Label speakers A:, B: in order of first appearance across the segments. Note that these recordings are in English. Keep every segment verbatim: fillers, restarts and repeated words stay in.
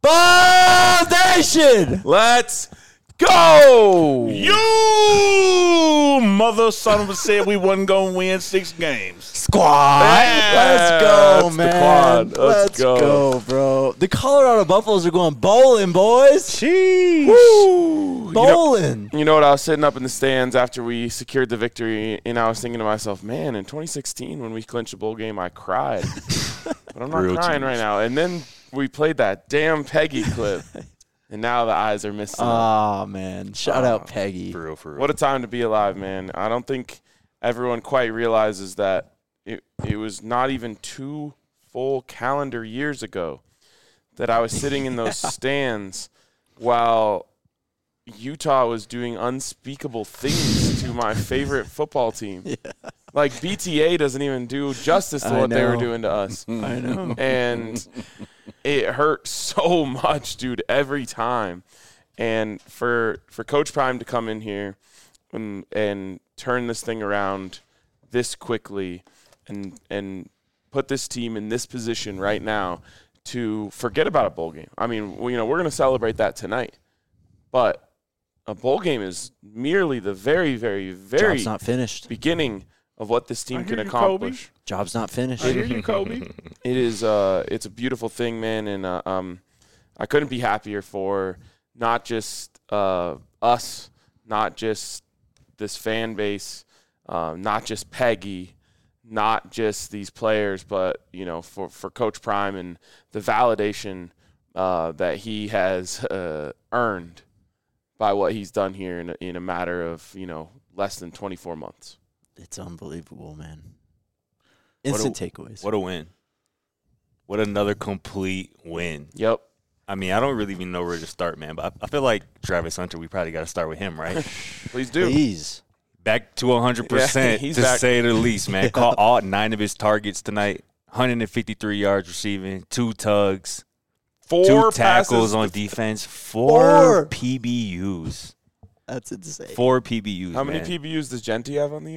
A: Foundation.
B: Let's go.
C: You mother son of a said we wasn't going to win six games.
A: Squad.
B: Yeah,
A: Let's go,
B: that's the
A: man.
B: quad. Let's
A: Let's
B: go.
A: go, bro. The Colorado Buffaloes are going bowling, boys.
C: Jeez.
B: Woo.
A: Bowling.
B: You know what? I was sitting up in the stands after we secured the victory, and I was thinking to myself, man, in twenty sixteen when we clinched the bowl game, I cried. But I'm not
C: Real
B: crying
C: tears.
B: right now. And then we played that damn Peggy clip, and now the eyes are missing.
A: Oh, man. Shout
B: Oh,
A: out Peggy.
C: For real, for real.
B: What a time to be alive, man. I don't think everyone quite realizes that it, it was not even two full calendar years ago that I was sitting in those stands while Utah was doing unspeakable things to my favorite football team.
A: Yeah.
B: Like, B T A doesn't even do justice to
A: I
B: what they were
A: know.
B: doing to us.
A: I know.
B: And it hurt so much, dude, every time. And for for Coach Prime to come in here and and turn this thing around this quickly and and put this team in this position right now to forget about a bowl game. I mean, we, you know, we're going to celebrate that tonight. But a bowl game is merely the very, very, very
A: Job's not finished.
B: beginning of what this team
C: I hear
B: can
C: you,
B: accomplish.
A: Job's not finished.
C: I hear you, Kobe.
B: It is uh it's a beautiful thing, man, and uh, um I couldn't be happier for not just uh us, not just this fan base, uh, not just Peggy, not just these players, but you know, for, for Coach Prime and the validation uh, that he has uh, earned by what he's done here in a, in a matter of, you know, less than twenty-four months.
A: It's unbelievable, man.
D: What
A: Instant
D: a-
A: takeaways.
D: What a win. What another complete win.
B: Yep.
D: I mean, I don't really even know where to start, man, but I, I feel like Travis Hunter, we probably got to start with him, right?
B: Please do.
A: Please.
D: Back to one hundred percent,
B: Yeah, he's
D: to
B: back.
D: say the least, man.
A: Yeah.
D: Caught all nine of his targets tonight, one hundred fifty-three yards receiving, two tugs,
B: Four
D: two tackles
B: passes
D: on
B: to-
D: defense, four,
A: Four.
D: P B Us.
A: That's insane.
D: Four P B Us,
B: How many
D: man.
B: P B Us does Genty have on the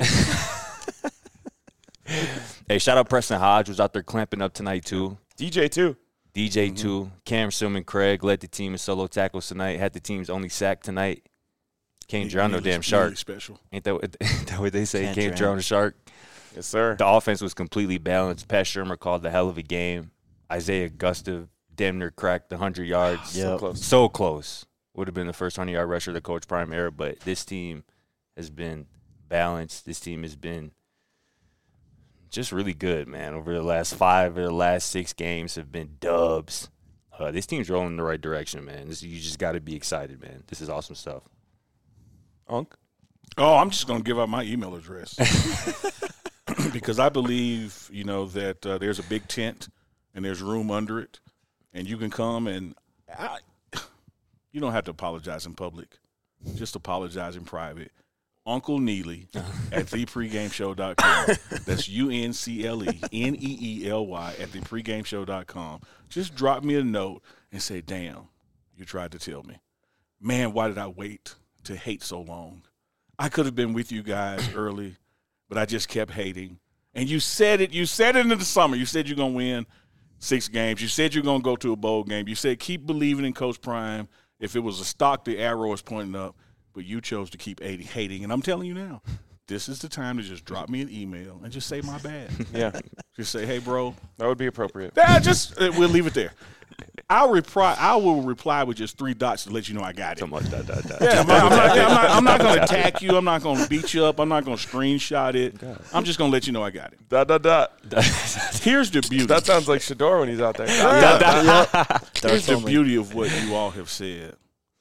B: end?
D: Hey, shout out Preston Hodge, was out there clamping up tonight, too.
B: D J too.
D: D J,
B: Mm-hmm.
D: too. Cam Silman Craig led the team in solo tackles tonight, had the team's only sack tonight. Can't drown no
C: Really-
D: damn shark.
C: really special.
D: Ain't that what, ain't that what they say?
A: Can't
D: Can't,
A: drown.
D: drown a shark.
B: Yes, sir.
D: The offense was completely balanced. Pat Shermer called a hell of a game. Isaiah Gustav damn near cracked the one hundred yards.
A: Yep.
B: So close.
D: So close. Would have been the first hundred-yard rusher of the Coach Prime era, but this team has been balanced. This team has been just really good, man. Over the last five or the last six games have been dubs. Uh, this team's rolling in the right direction, man. This, you just got to be excited, man. This is awesome stuff.
B: Unk?
C: Oh, I'm just going to give out my email address because I believe, you know, that uh, there's a big tent and there's room under it, and you can come and I, you don't have to apologize in public. Just apologize in private. Uncle Neely at the pregame show dot com. That's U N C L E N E E L Y at the pregame show dot com. Just drop me a note and say, damn, you tried to tell me. Man, why did I wait to hate so long? I could have been with you guys early, but I just kept hating. And you said it. You said it in the summer. You said you're going to win six games. You said you're going to go to a bowl game. You said keep believing in Coach Prime. If it was a stock, the arrow is pointing up. But you chose to keep hating. And I'm telling you now, this is the time to just drop me an email and just say my bad.
B: Yeah,
C: Just say, hey, bro.
B: that would be appropriate.
C: Yeah, just uh, we'll leave it there. I'll reply. I will reply with just three dots to let you know I got it.
D: Something like that. that, that.
C: Yeah, I'm not, I'm not, I'm not, I'm not going to attack you. I'm not going to beat you up. I'm not going to screenshot it. I'm just going to let you know I got it.
B: Dot, dot, dot.
C: Here's the beauty.
B: That sounds like Shador when he's out there.
C: Here's the beauty of what you all have said.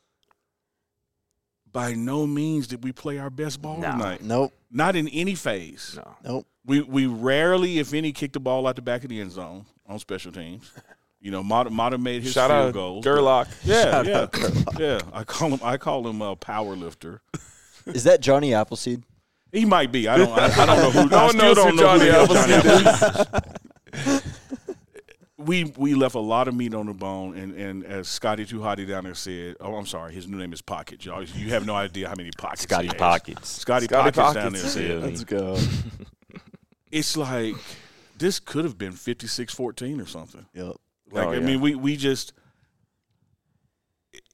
C: By no means did we play our best ball
D: No.
C: tonight.
A: Nope.
C: Not in any phase.
D: No.
A: Nope.
C: We we rarely, if any, kicked the ball out the back of the end zone on special teams. You know, Mata, Mata made his
B: Shout
C: field
B: out
C: goals.
B: Gerlach.
C: Yeah, yeah, yeah. I call him. I call him a power lifter.
A: Is that Johnny Appleseed?
C: He might be. I don't. I, I don't know who.
B: No
C: I
B: one
C: still
B: knows
C: don't
B: who
C: know
B: Johnny
C: who the hell
B: Appleseed
C: Appleseed is. We we left a lot of meat on the bone, and, and as Scotty Too Hotty down there said, oh, I'm sorry, his new name is Pocket, y'all. You have no idea how many pockets.
D: Scotty
C: he has.
D: Pockets.
C: Scotty,
B: Scotty
C: Pockets, down there
B: Pockets.
C: said,
D: Let's
A: go.
C: it's like this could have been fifty-six fourteen or something.
A: Yep.
C: Like
B: Oh,
C: I
B: yeah.
C: mean, we we just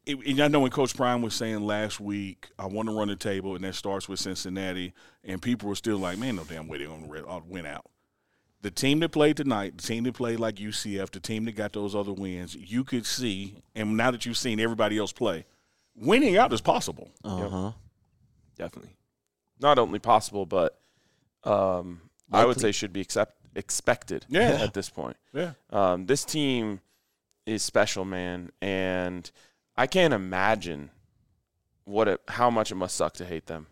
C: it, and I know when Coach Prime was saying last week, I want to run the table, and that starts with Cincinnati, and people were still like, man, no damn way they're going to win out. The team that played tonight, the team that played like U C F, the team that got those other wins, you could see, and now that you've seen everybody else play, winning out is possible.
A: Uh-huh.
B: Yep. Definitely. Not only possible, but um, I would say should be accept, expected
C: yeah.
B: at this point.
C: Yeah.
B: Um, this team is special, man, and I can't imagine what it, how much it must suck to hate them.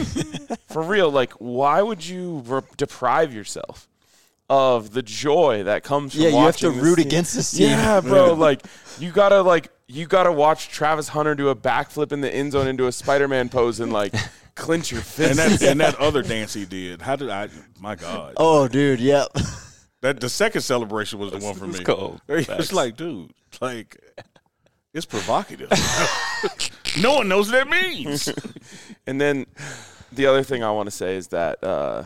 B: For real, like, why would you re- deprive yourself of the joy that comes from
A: yeah, you have to
B: watching this
A: root
B: team?
A: against this team.
B: Yeah, bro. Like you gotta like you gotta watch Travis Hunter do a backflip in the end zone into a Spider-Man pose and like clench your fist.
C: And that and that other dance he did. How did I? My God.
A: Oh, dude, yep.
C: That the second celebration was the one for me.
D: It's cold.
C: It's like, dude, like it's provocative. No one knows what that means.
B: And then the other thing I want to say is that, uh,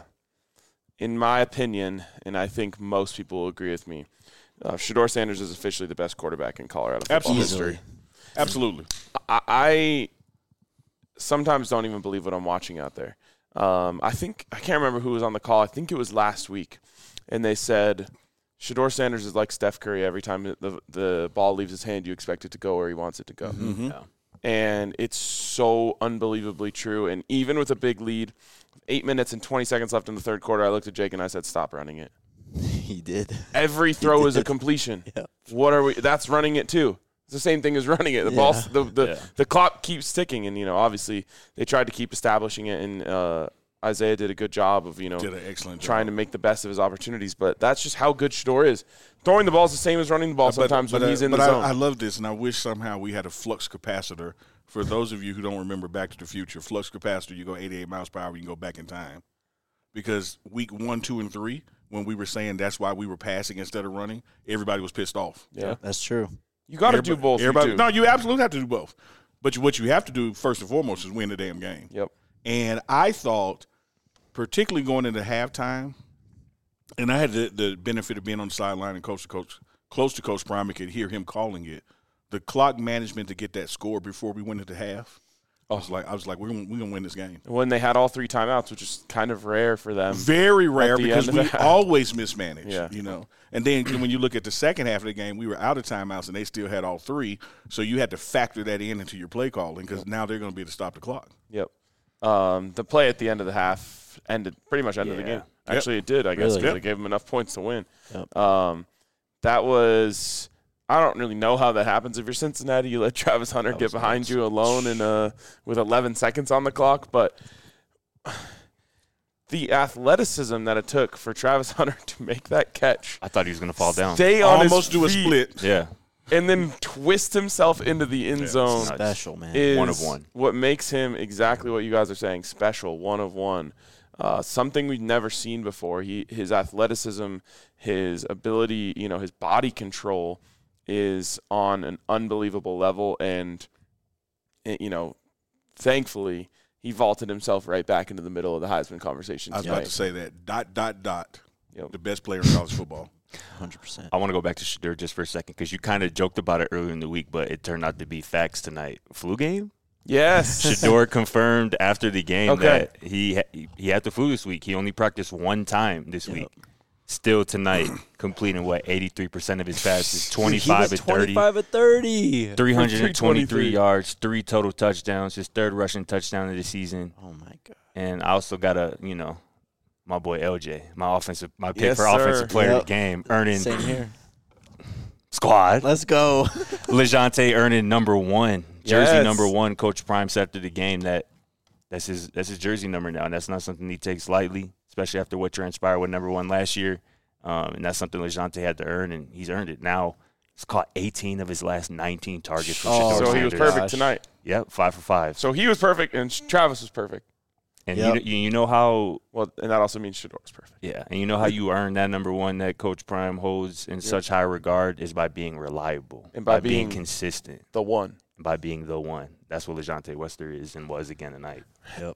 B: in my opinion, and I think most people will agree with me, uh, Shedeur Sanders is officially the best quarterback in Colorado football
C: Absolutely.
B: history.
C: Absolutely.
B: I, I sometimes don't even believe what I'm watching out there. Um, I think I can't remember who was on the call. I think it was last week, and they said Shedeur Sanders is like Steph Curry. Every time the the ball leaves his hand, you expect it to go where he wants it to go.
C: Mm-hmm.
D: Yeah.
B: And it's so unbelievably true. And even with a big lead, eight minutes and twenty seconds left in the third quarter, I looked at Jake and I said, "Stop running it."
A: He did.
B: Every throw is a completion.
A: Yep.
B: What are we? That's running it too. It's the same thing as running it. The
A: Yeah.
B: ball, the the,
D: Yeah.
B: the clock keeps ticking, and you know, obviously, they tried to keep establishing it, and uh, Isaiah did a good job of you know
C: Did an excellent job.
B: trying to make the best of his opportunities. But that's just how good Shedeur is. Throwing the ball is the same as running the ball sometimes
C: but,
B: when
C: uh,
B: he's in
C: but
B: the
C: I,
B: zone.
C: I love this, and I wish somehow we had a flux capacitor. For those of you who don't remember Back to the Future, flux capacitor, you go eighty-eight miles per hour, you can go back in time. Because week one, two, and three, when we were saying that's why we were passing instead of running, everybody was pissed off.
B: yeah,
A: That's true.
B: you got to
C: Everybody-
B: do both. you
C: Everybody,
B: do.
C: no, you absolutely have to do both. But you, what you have to do first and foremost is win the damn game.
B: Yep.
C: And I thought, particularly going into halftime, and I had the, the benefit of being on the sideline and coach to coach, close to Coach Prime, and could hear him calling it. The clock management to get that score before we went into half, I was like, I was like, we're gonna, we're gonna win this game.
B: When they had all three timeouts, which is kind of rare for them.
C: Very rare
B: the
C: because
B: end of
C: we
B: the half.
C: always mismanage.
B: Yeah.
C: You know, and then when you look at the second half of the game, we were out of timeouts and they still had all three, so you had to factor that in into your play calling because now they're going to be able to stop the clock.
B: Yep. Um, the play at the end of the half ended pretty much ended the
D: Yeah.
B: game. Actually, it did. I guess
A: Really?
B: because
C: Yep.
B: they gave them enough points to win.
A: Yep.
B: Um, that was. I don't really know how that happens. If you're Cincinnati, you let Travis Hunter
D: That
B: get
D: was
B: behind
D: nuts.
B: you alone and uh, with eleven seconds on the clock. But the athleticism that it took for Travis Hunter to make that catch,
D: I thought he was going to fall down.
B: stay on
C: Almost
B: his
C: do a
B: feet,
C: split.
D: Yeah.
B: and then twist himself into the end
C: Yeah.
B: zone.
D: Nuts.
A: Special, man.
B: Is
D: One of one.
B: what makes him exactly what you guys are saying, special, one of one. Uh, something we've never seen before. He, his athleticism, his ability, you know, his body control is on an unbelievable level, and you know, thankfully, he vaulted himself right back into the middle of the Heisman conversation
C: I was
B: tonight.
C: about to say that. Dot, dot, dot.
B: Yep.
C: The best player in college football.
A: one hundred percent.
D: I want to go back to Shedeur just for a second because you kind of joked about it earlier in the week, but it turned out to be facts tonight. Flu game?
B: Yes.
D: Shedeur confirmed after the game
B: Okay.
D: that he ha- he had the flu this week. He only practiced one time this
A: Yep.
D: week. Still tonight, completing what eighty-three percent of his passes,
A: He
D: twenty-five
A: was
D: at thirty,
A: twenty-five at thirty.
D: three hundred twenty-three
B: three
D: yards, three total touchdowns, his third rushing touchdown of the season.
A: Oh, my God.
D: And I also got a, you know, my boy L J, my offensive, my pick
B: Yes,
D: for
B: sir.
D: offensive player
A: Yep.
D: of the game, earning
A: Same here.
D: squad.
A: Let's go.
D: LeJounte earning number one, jersey
B: Yes.
D: number one. Coach Prime said after the game that that's his that's his jersey number now, and that's not something he takes lightly, especially after what transpired with number one last year. Um, and that's something LeJounte had to earn, and he's earned it. Now he's caught eighteen of his last nineteen targets from
A: Oh,
D: Shedeur
B: so he
D: Sanders.
B: was perfect
A: Gosh.
B: tonight.
D: Yep, five for five.
B: So he was perfect, and Travis was perfect.
D: And
A: Yep.
D: you, you know how
B: Well, and that also means Shedeur was perfect.
D: Yeah, and you know how you earn that number one that Coach Prime holds in such high regard is by being reliable,
B: And by
D: being,
B: being-
D: consistent,
B: The one.
D: and by being the one. That's what LeJounte Wester is and was again tonight.
A: Yep.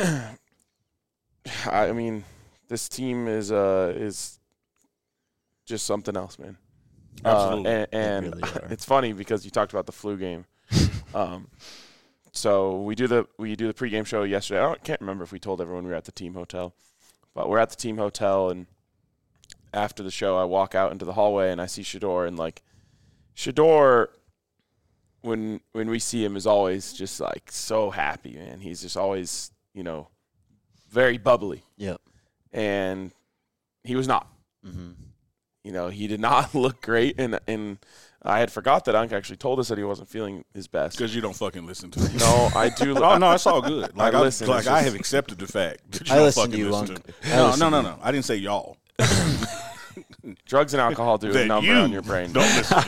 B: I mean, this team is uh is just something else, man.
C: Absolutely.
B: Uh, and and
A: really are.
B: it's funny because you talked about the flu game. Um, so we do the we do the pregame show yesterday. I don't, can't remember if we told everyone we were at the team hotel, but we're at the team hotel, and after the show, I walk out into the hallway and I see Shedeur, and like Shedeur, when when we see him, is always just like so happy, man. He's just always, you know, very bubbly.
A: Yep.
B: And he was not.
A: Mm-hmm.
B: You know, he did not look great, and and I had forgot that Unc actually told us that he wasn't feeling his best.
C: Because you don't fucking listen to me.
B: No, I do.
C: Oh, no, it's all good. Like,
B: I
C: I,
B: listen,
C: like
B: it's
C: I
B: just-
C: have accepted the fact that you
A: I
C: don't
A: listen
C: fucking
A: to you,
C: listen
A: Unc.
C: to me.
A: I
C: No,
A: listen
C: no,
A: to
C: no,
A: you.
C: no. I didn't say y'all.
B: Drugs and alcohol do a
C: That
B: number
C: you
B: on your brain.
C: don't listen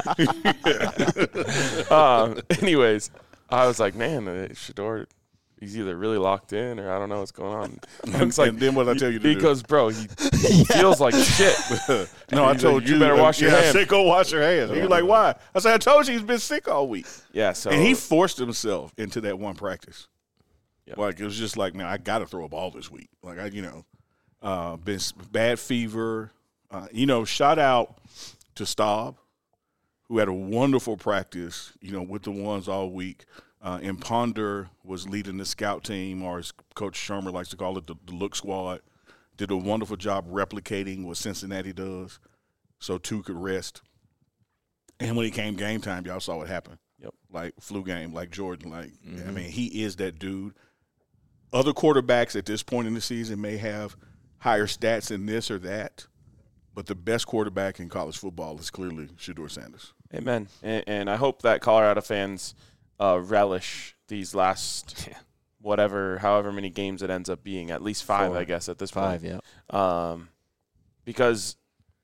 C: to me.
B: um, anyways, I was like, man, uh, Shedeur, he's either really locked in or I don't know what's going on. Unc's like,
C: And then what I tell you to
B: he
C: do?
B: goes, bro, he feels like shit.
C: No, I
B: He's
C: told
B: like,
C: you.
B: you better wash your
C: yeah, I
B: hands.
C: said, go wash your hands. And you're like, why? I said, I told you he's been sick all week.
B: Yeah, so
C: And he forced himself into that one practice.
B: Yep.
C: Like, it was just like, man, I got to throw a ball this week. Like, I, you know, uh, been s- bad fever. Uh, you know, shout out to Staub, who had a wonderful practice, you know, with the ones all week. Uh, and Ponder was leading the scout team, or as Coach Shermer likes to call it, the, the look squad. Did a wonderful job replicating what Cincinnati does so two could rest. And when it came game time, y'all saw what happened.
B: Yep.
C: Like flu game, like Jordan. Like,
D: Mm-hmm.
C: I mean, he is that dude. Other quarterbacks at this point in the season may have higher stats in this or that, but the best quarterback in college football is clearly Shedeur Sanders.
B: amen. And, and I hope that Colorado fans uh, relish these last
D: Yeah.
B: whatever, however many games it ends up being, at least five,
A: Four.
B: I guess, at this
A: Five,
B: point.
A: yeah.
B: Um, because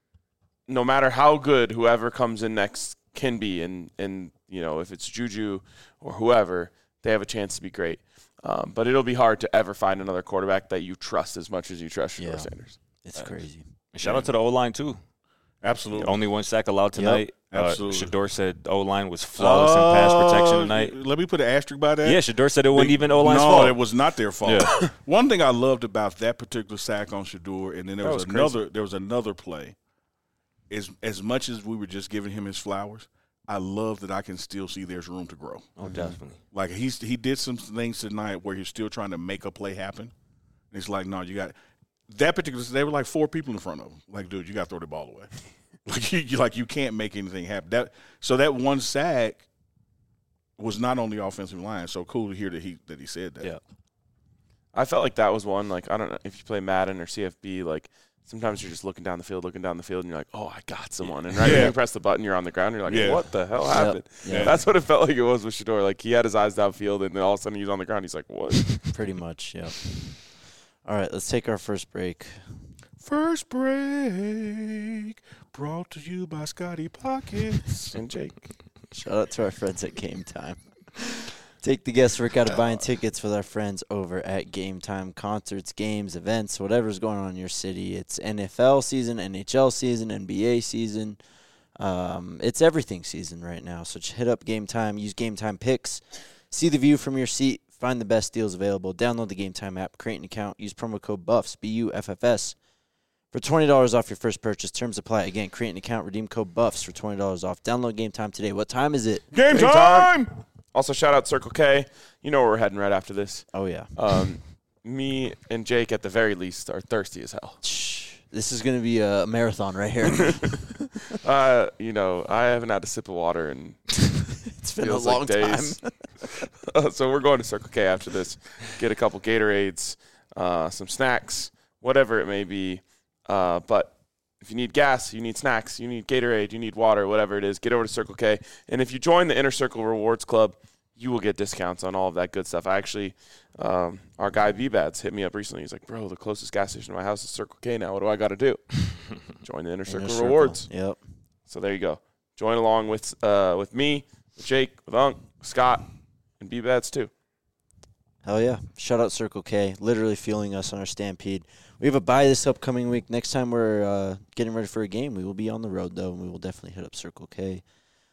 B: no matter how good whoever comes in next can be, and, and you know, if it's Juju or whoever, they have a chance to be great. Um, but it'll be hard to ever find another quarterback that you trust as much as you trust Shedeur
A: Yeah.
B: Sanders.
A: It's crazy.
D: And shout out to the O-line, too.
C: Absolutely.
D: Only one sack allowed tonight.
C: absolutely.
D: Uh, Shedeur said the O-line was flawless in pass protection tonight.
C: Let me put an asterisk by that.
D: Yeah, Shedeur said it wasn't even O-line's
C: no,
D: fault.
C: it was not their fault.
D: Yeah.
C: One thing I loved about that particular sack on Shedeur, and then there
B: That
C: was,
B: was
C: another.
B: crazy.
C: There was another play. Is as much as we were just giving him his flowers, I love that I can still see there's room to grow.
D: Oh, definitely.
C: Like he's he did some things tonight where he's still trying to make a play happen. And it's like, no, you got that particular. They were like four people in front of him. Like, dude, you got to throw the ball away. like you, you like you can't make anything happen. That so that one sack was not on the offensive line. So cool to hear that he that he said that.
B: Yeah. I felt like that was one, like, I don't know if you play Madden or C F B, like, sometimes you're just looking down the field, looking down the field, and you're like, oh, I got someone. And right
C: Yeah.
B: when you press the button, you're on the ground. You're like,
C: Yeah.
B: what the hell happened?
A: Yeah.
B: That's what it felt like it was with Shedeur. Like, he had his eyes downfield, and then all of a sudden he's on the ground. He's like, what?
A: Pretty much, yeah. All right, let's take our first break.
C: First break brought to you by Scotty Pockets.
B: And Jake.
A: Shout out to our friends at Game Time. Take the guesswork out of buying tickets with our friends over at Game Time. Concerts, games, events, whatever's going on in your city. It's N F L season, N H L season, N B A season. Um, it's everything season right now. So just hit up Game Time. Use Game Time picks. See the view from your seat. Find the best deals available. Download the Game Time app. Create an account. Use promo code BUFFS, B U F F S, for twenty dollars off your first purchase. Terms apply. Again, create an account. Redeem code BUFFS for twenty dollars off. Download Game Time today. What time is it?
C: Game
B: Game
C: time!
B: Also, shout out Circle K. You know where we're heading right after this.
A: Oh, yeah.
B: Um, me and Jake, at the very least, are thirsty as hell.
A: Shh. This is going to be a marathon right here.
B: Uh, you know, I haven't had a sip of water in
A: It's been a
B: feels
A: long
B: like days.
A: time.
B: Uh, so we're going to Circle K after this. Get a couple Gatorades, uh, some snacks, whatever it may be. Uh, but if you need gas, you need snacks, you need Gatorade, you need water, whatever it is, get over to Circle K. And if you join the Inner Circle Rewards Club, you will get discounts on all of that good stuff. I actually, um, our guy B-Bads hit me up recently. He's like, bro, the closest gas station to my house is Circle K now. What do I got to do? Join the Inner
A: Inner
B: Circle
A: Circle.
B: Rewards.
A: Yep.
B: So there you go. Join along with uh, with me, with Jake, with Unc, with Scott, and B-Bads too.
A: Hell yeah. Shout out Circle K. Literally fueling us on our stampede. We have a bye this upcoming week. Next time we're uh, getting ready for a game, we will be on the road, though, and we will definitely hit up Circle K.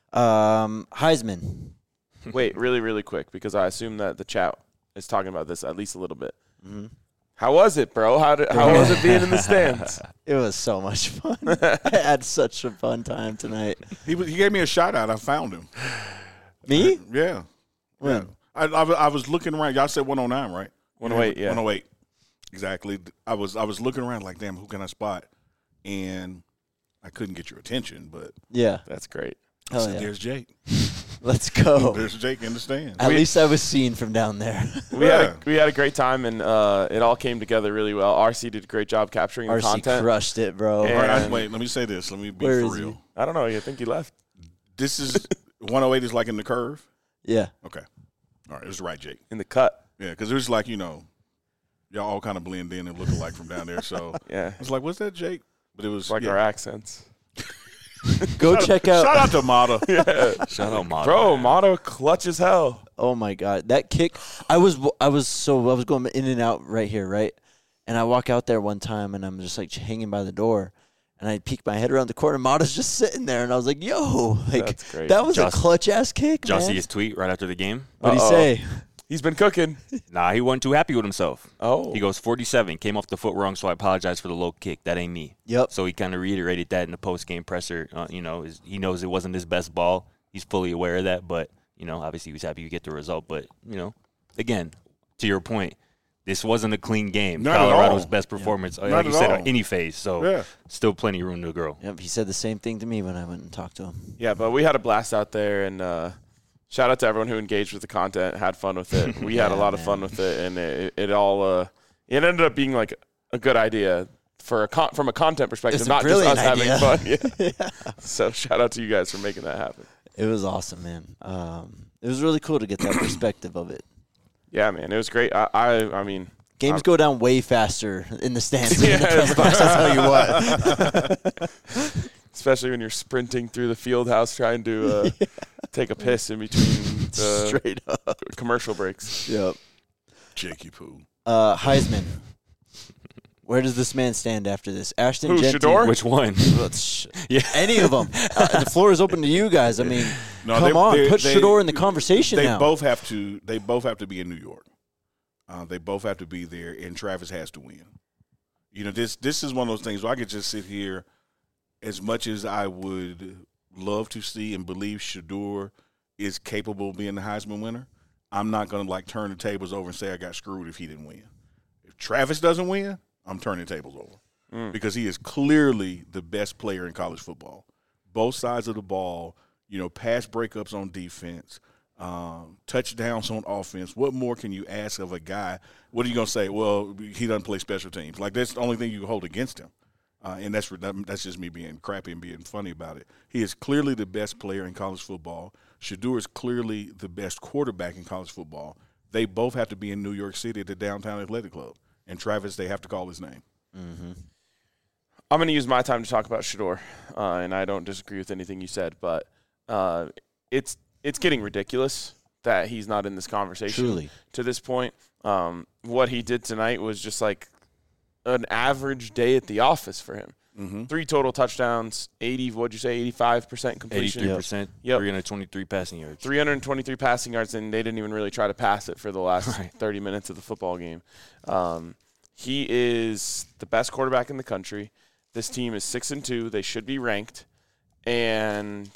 A: Um, Heisman.
B: Wait, really, really quick, because I assume that the chat is talking about this at least a little bit.
A: Mm-hmm.
B: How was it, bro? How did, how was it being in the stands?
A: It was so much fun. I had such a fun time tonight.
C: He, was- he gave me a shout out. I found him.
A: Me?
C: Yeah.
A: When?
C: Yeah. I, I, was- I was looking around. Y'all said one oh nine, right?
B: one oh eight, yeah.
C: one oh eight. Exactly. I was I was looking around like, damn, who can I spot? And I couldn't get your attention, but
A: Yeah.
B: That's great.
C: I
A: Hell
C: said,
A: yeah.
C: there's Jake.
A: Let's go.
C: There's Jake in the stand.
A: At
B: We-
A: least I was seen from down there.
B: We
C: Yeah.
B: had a, we had a great time, and uh, it all came together really well. R C did a great job capturing the
A: R C
B: content.
A: crushed it, bro.
B: Yeah.
C: All right, I-
B: And-
C: wait, let me say this. Let me be
A: Where
C: for
A: is he?
C: real.
B: I don't know. I think he left.
C: This is one oh eight is like in the curve.
A: Yeah.
C: Okay. All right, it was right, Jake.
B: In the cut.
C: Yeah, because it was like, you know, y'all all kind of blend in and look alike from down there. So
B: Yeah.
C: I was like, what's that, Jake? But it was
B: It's like
C: yeah.
B: our accents.
A: Go check out.
C: Shout out to Mata.
B: Yeah.
D: Shout out, Mata.
B: Bro, Motto clutch as hell.
A: Oh my god, that kick! I was I was so I was going in and out right here, right? And I walk out there one time, and I'm just like hanging by the door, and I peek my head around the corner. Mata's just sitting there, and I was like, "Yo, like
B: That's great.
A: that was
D: Just-
A: a clutch ass kick,
D: Did y'all see
A: man."
D: his tweet right after the game?
A: What'd he
B: Uh-oh.
A: say?
B: He's been cooking.
D: Nah, he wasn't too happy with himself.
B: Oh.
D: He goes, forty-seven, came off the foot wrong, so I apologize for the low kick. That ain't me.
A: Yep.
D: So he kind of reiterated that in the post-game presser. Uh, you know, is, he knows it wasn't his best ball. He's fully aware of that, but, you know, obviously he was happy to get the result. But, you know, again, to your point, this wasn't a clean game.
C: Not at
D: Colorado's
C: all.
D: best performance, uh,
C: Not
D: like you
C: at
D: said,
C: all.
D: on any phase. So
C: Yeah.
D: still plenty of room to grow.
A: Yep. He said the same thing to me when I went and talked to him.
B: Yeah, but we had a blast out there, and uh, shout out to everyone who engaged with the content, had fun with it. We had a
A: Yeah,
B: lot of
A: man.
B: fun with it, and it, it all uh, it ended up being like a good idea for a con- from a content perspective,
A: It's a
B: not just us
A: brilliant idea.
B: having fun. Yeah. So shout out to you guys for making that happen.
A: It was awesome, man. Um, it was really cool to get that perspective of it.
B: Yeah, man, it was great. I I, I mean,
A: Games
B: I'm-
A: go down way faster in the stands than in the press box. I'll tell you what.
B: especially when you're sprinting through the field house trying to uh, take a piss in between the
A: Straight up.
B: commercial breaks.
A: Yep.
C: Jakey Poo.
A: Uh, Heisman. Where does this man stand after this? Ashton
B: Who,
A: Genty.
B: Shador?
D: Which one?
A: Well, sh-
D: Yeah.
A: Any of them. Uh, the floor is open to you guys. I mean,
C: No,
A: come
C: they-
A: on,
C: they-
A: put
C: they-
A: Shador in the conversation
C: They
A: now.
C: both have to. They both have to be in New York. Uh, they both have to be there, and Travis has to win. You know, this this is one of those things where I could just sit here. As much as I would love to see and believe Shador is capable of being the Heisman winner, I'm not going to like turn the tables over and say I got screwed if he didn't win. If Travis doesn't win, I'm turning the tables over
B: Mm.
C: because he is clearly the best player in college football. Both sides of the ball, you know, pass breakups on defense, um, touchdowns on offense. What more can you ask of a guy? What are you going to say? Well, he doesn't play special teams. Like, that's the only thing you can hold against him. Uh, and that's that's just me being crappy and being funny about it. He is clearly the best player in college football. Shador is clearly the best quarterback in college football. They both have to be in New York City at the Downtown Athletic Club. And Travis, they have to call his name.
A: Mm-hmm.
B: I'm going to use my time to talk about Shador, uh, and I don't disagree with anything you said, but uh, it's it's getting ridiculous that he's not in this conversation
A: Truly.
B: to this point. Um, what he did tonight was just like an average day at the office for him.
C: Mm-hmm.
B: Three total touchdowns, eighty, what'd you say, eighty-five percent completion?
D: eighty-three percent,
B: Yep.
D: three hundred twenty-three passing yards.
B: three hundred twenty-three passing yards, and they didn't even really try to pass it for the last
D: Right.
B: thirty minutes of the football game. Um, he is the best quarterback in the country. This team is six and two. They should be ranked, and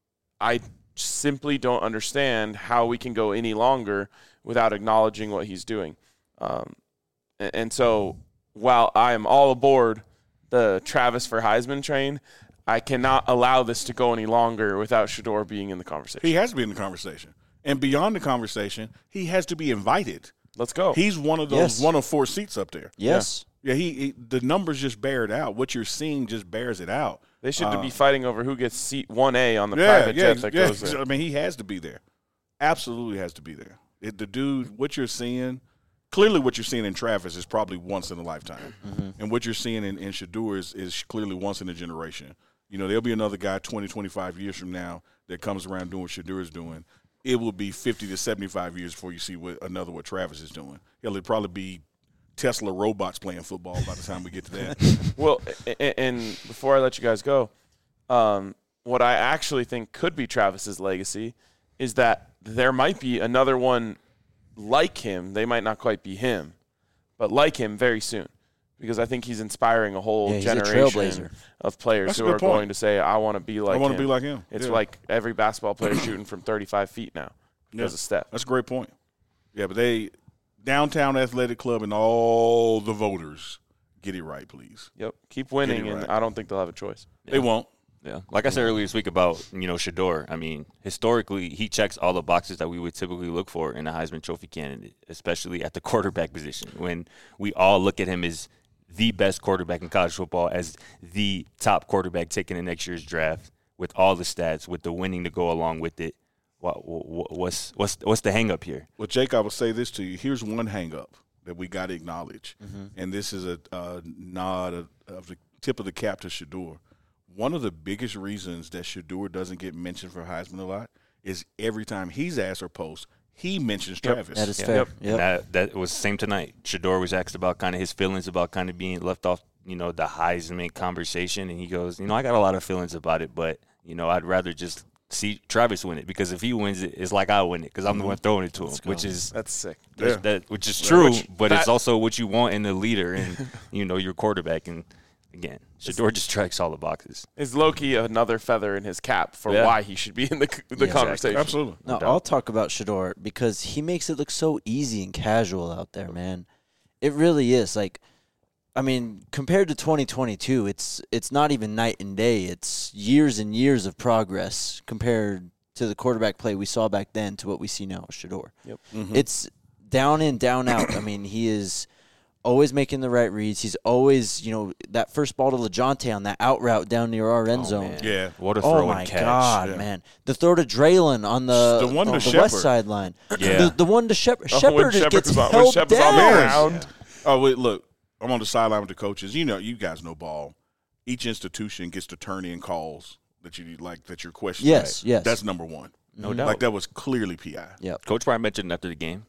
B: I simply don't understand how we can go any longer without acknowledging what he's doing. Um, and, and so, while I am all aboard the Travis for Heisman train, I cannot allow this to go any longer without Shador being in the conversation.
C: He has to be in the conversation. And beyond the conversation, he has to be invited.
B: Let's go.
C: He's one of those
A: Yes.
C: one of four seats up there.
A: Yes.
C: Yeah, he, he the numbers just bear it out. What you're seeing just bears it out.
B: They should
C: Uh,
B: be fighting over who gets seat one A on the
C: yeah,
B: private
C: yeah,
B: jet that
C: yeah.
B: goes there.
C: I mean, he has to be there. Absolutely has to be there. It, the dude, what you're seeing, clearly what you're seeing in Travis is probably once in a lifetime.
A: Mm-hmm.
C: And what you're seeing in, in Shador is, is clearly once in a generation. You know, there'll be another guy twenty, twenty-five years from now that comes around doing what Shador is doing. It will be fifty to seventy-five years before you see what another what Travis is doing. It'll probably be Tesla robots playing football by the time we get to that.
B: Well, a- a- and before I let you guys go, um, what I actually think could be Travis's legacy is that there might be another one like him. They might not quite be him, but like him very soon. Because I think he's inspiring a whole
A: Yeah, he's a
B: generation
A: trailblazer.
B: of players
C: That's a
B: who
C: good
B: are
C: point.
B: going to say, I want to be like
C: I want
B: him.
C: to be like him.
B: It's
C: Yeah.
B: like every basketball player shooting from thirty-five feet now.
C: Yeah.
B: as a step.
C: That's a great point. Yeah, but they downtown athletic club and all the voters get it right, please.
B: Yep. Keep winning,
C: Get it
B: and
C: right.
B: I don't think they'll have a choice.
C: They won't.
D: Yeah, like I said earlier this week about, you know, Shador. I mean, historically, he checks all the boxes that we would typically look for in a Heisman Trophy candidate, especially at the quarterback position. When we all look at him as the best quarterback in college football, as the top quarterback taken in next year's draft, with all the stats, with the winning to go along with it. What, what, what's what's what's the hang up here?
C: Well, Jake, I will say this to you. Here's one hang up that we got to acknowledge,
A: Mm-hmm.
C: and this is a, a nod of, of the tip of the cap to Shador. One of the biggest reasons that Shador doesn't get mentioned for Heisman a lot is every time he's asked or post, he mentions
B: Yep.
C: Travis.
A: That is
B: Yep.
A: fair.
B: Yep.
A: Yep.
D: And that that was same tonight. Shador was asked about kind of his feelings about kind of being left off, you know, the Heisman conversation, and he goes, you know, I got a lot of feelings about it, but you know, I'd rather just see Travis win it, because if he wins it, it's like I win it because I'm the one throwing it to him, which is
B: That's sick.
C: Yeah.
D: that which is true,
B: Which-
D: but
B: that-
D: it's also what you want in the leader and you know your quarterback. And again, Shador just checks all the boxes.
B: Is Loki another feather in his cap for
D: Yeah.
B: why he should be in the the
A: Yeah.
B: conversation?
C: Absolutely.
A: No,
D: doubt.
A: I'll talk about Shador because he makes it look so easy and casual out there, man. It really is. Like, I mean, compared to twenty twenty-two, it's it's not even night and day. It's years and years of progress compared to the quarterback play we saw back then to what we see now with Shador.
B: Yep.
C: Mhm.
A: It's down in, down out. I mean, he is always making the right reads. He's always, you know, that first ball to LeJontay on that out route down near our end
D: Oh,
A: zone.
D: man.
C: Yeah.
D: What a
A: Oh
D: throw
A: my
D: and catch!
A: God,
C: Yeah.
A: man! The throw to Draylon on the,
C: The one to
A: on the
C: Shepard.
A: west sideline.
D: Yeah.
A: The, the one to Shepard.
B: Oh, when
A: Shepard
B: Shepard
A: gets
B: was on- when
A: held
B: Shepard was on the
A: down.
B: ground.
C: Oh, wait, look. I'm on the sideline with the coaches. You know, you guys know ball. Each institution gets to turn in calls that you like that you're questioning.
A: Yes, yes.
C: That's number one.
D: No doubt.
C: Like that was clearly P I.
A: Yep.
D: Coach Prime mentioned after the game.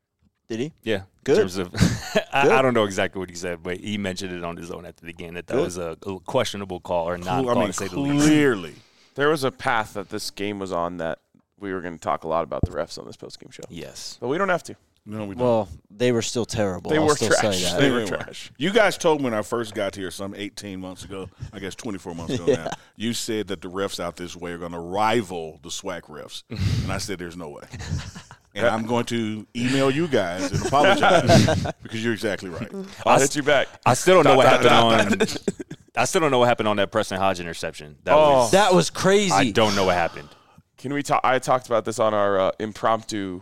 A: Did he?
D: Yeah,
A: Good.
D: In terms of, I,
A: Good.
D: I don't know exactly what he said, but he mentioned it on his own after the game that that
A: Good.
D: was a, a questionable call or not
C: I
D: call
C: mean,
D: to say the least.
C: clearly.
B: There was a path that this game was on that we were going to talk a lot about the refs on this postgame show,
D: Yes.
B: but we don't have to.
C: No, we don't.
A: Well, they were still terrible.
B: They
A: I'll
B: were
A: still
B: trash.
A: say that.
B: They were
C: Anyway,
B: trash.
C: You guys told me when I first got here some eighteen months ago, I guess twenty-four months ago now, you said that the refs out this way are going to rival the SWAC refs. And I said there's no way. And I'm going to email you guys and apologize because you're exactly right.
B: I'll hit you back.
D: I still don't know what
B: Dot,
D: happened
B: dot,
D: on. I still don't know what happened on that Preston Hodge interception. That
B: Oh.
D: was.
A: That was crazy.
D: I don't know what happened.
B: Can we talk? I talked about this on our uh, impromptu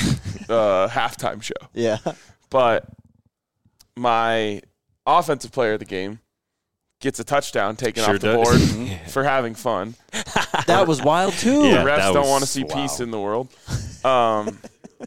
B: uh, halftime show.
A: Yeah.
B: But my offensive player of the game gets a touchdown taken
D: Sure
B: off the
D: does.
B: board for having fun.
A: That was wild, too.
D: Yeah.
B: the refs
D: that
B: don't
D: was-
B: want to see
D: wow.
B: peace in the world. Um,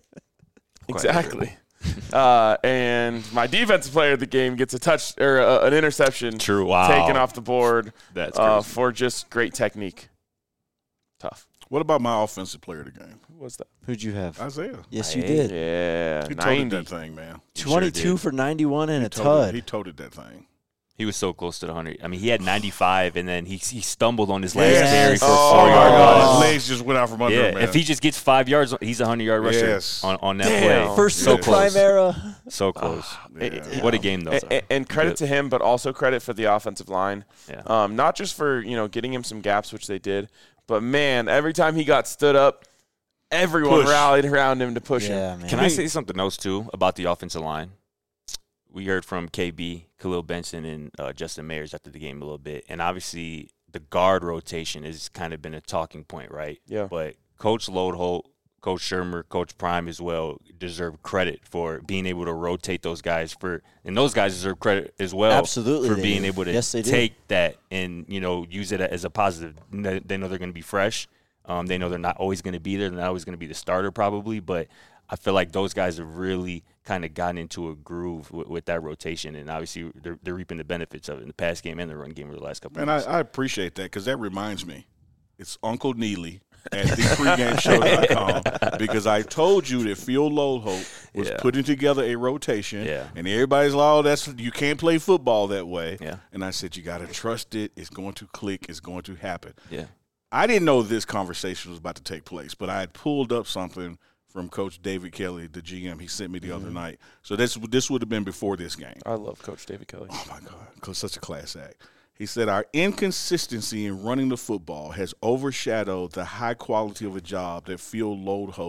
B: exactly. Uh, and my defensive player of the game gets a touch or uh, an interception
D: True. Wow.
B: taken off the board
D: That's
B: uh,
D: crazy.
B: for just great technique. Tough.
C: What about my offensive player of the game?
B: Who was that?
A: Who'd you have?
C: Isaiah.
A: Yes, you
D: Hey.
A: did.
B: Yeah,
C: He toted
B: ninety.
C: that thing, man.
D: He sure
A: twenty-two
D: did.
A: for ninety-one and a
C: Toted-
A: tud.
C: He toted that thing.
D: He was so close to the hundred. I mean, he had ninety-five, and then he he stumbled on his last
C: Yes.
D: carry for a
B: Oh.
D: four-yard
B: Oh.
D: run.
C: His legs just went out from under
D: Yeah,
C: him, man.
D: if he just gets five yards, he's a hundred-yard rusher
C: Yes.
D: on, on that
B: Damn.
D: play.
A: First
D: so
A: the
D: close,
A: prime era.
D: so close.
C: Yeah.
D: What a game, though.
B: And, and credit to him, but also credit for the offensive line.
D: Yeah.
B: Um, not just for you know getting him some gaps, which they did, but man, every time he got stood up, everyone
C: Push.
B: rallied around him to push him.
A: Yeah, man.
D: Can I say something else, too, about the offensive line? We heard from K B, Khalil Benson, and uh, Justin Mayers after the game a little bit. And obviously, the guard rotation has kind of been a talking point, right?
B: Yeah.
D: But Coach Lodeholt, Coach Shermer, Coach Prime as well deserve credit for being able to rotate those guys for, and those guys deserve credit as well
A: Absolutely
D: for
A: they
D: being
A: do.
D: able to
A: Yes, they do.
D: take that and, you know, use it as a positive. They they know they're going to be fresh. Um, they know they're not always going to be there. They're not always going to be the starter probably, but I feel like those guys have really kind of gotten into a groove with, with that rotation, and obviously they're, they're reaping the benefits of it in the pass game and the run game over the last couple
C: Man,
D: of
C: I,
D: years.
C: I appreciate that because that reminds me. It's Uncle Neely at the pregame show dot com because I told you that Phil Lodeholt was
D: Yeah.
C: putting together a rotation,
D: Yeah.
C: and everybody's like, "Oh, that's you can't play football that way."
D: Yeah.
C: And I said, "You got to trust it. It's going to click. It's going to happen."
D: Yeah.
C: I didn't know this conversation was about to take place, but I had pulled up something from Coach David Kelly, the G M. He sent me the
D: Mm-hmm.
C: other night. So this this would have been before this game.
B: I love Coach David Kelly.
C: Oh, my God. Because such a class act. He said, our inconsistency in running the football has overshadowed the high quality of a job that Phil Lodeholt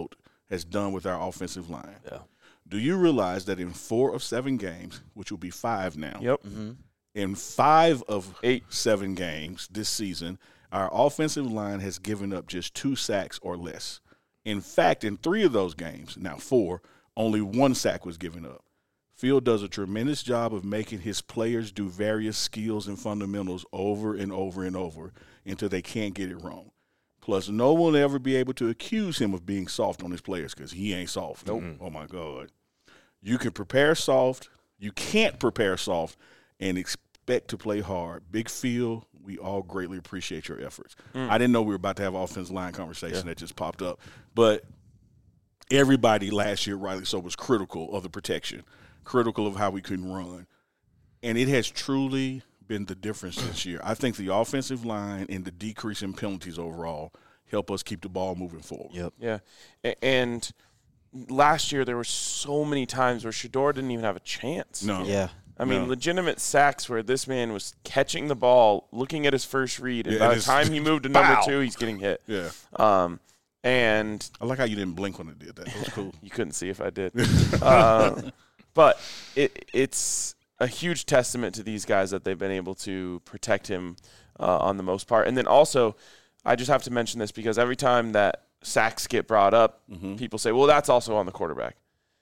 C: has done with our offensive line.
D: Yeah.
C: Do you realize that in four of seven games, which will be five now,
B: Yep.
A: Mm-hmm.
C: in five of
B: Eight.
C: seven games this season, our offensive line has given up just two sacks or less. In fact, in three of those games, now four, only one sack was given up. Field does a tremendous job of making his players do various skills and fundamentals over and over and over until they can't get it wrong. Plus, no one will ever be able to accuse him of being soft on his players because he ain't soft. Nope. Mm-hmm. Oh, my God. You can prepare soft. You can't prepare soft and expect to play hard. Big Field, we all greatly appreciate your efforts. Mm. I didn't know we were about to have an offensive line conversation yeah. that just popped up. But everybody last year, rightly so, was critical of the protection, critical of how we couldn't run. And it has truly been the difference this year. I think the offensive line and the decrease in penalties overall help us keep the ball moving forward.
A: Yep.
B: Yeah. And last year there were so many times where Shedeur didn't even have a chance.
C: No.
A: Yeah.
B: I mean,
C: no.
B: legitimate sacks where this man was catching the ball, looking at his first read, and
C: yeah,
B: by
C: and
B: the time he moved to number
C: bow.
B: two, he's getting hit.
C: Yeah.
B: Um, and
C: I like how you didn't blink when it did that. That was cool.
B: You couldn't see if I did. uh, but it, it's a huge testament to these guys that they've been able to protect him uh, on the most part. And then also, I just have to mention this because every time that sacks get brought up, mm-hmm. people say, well, that's also on the quarterback.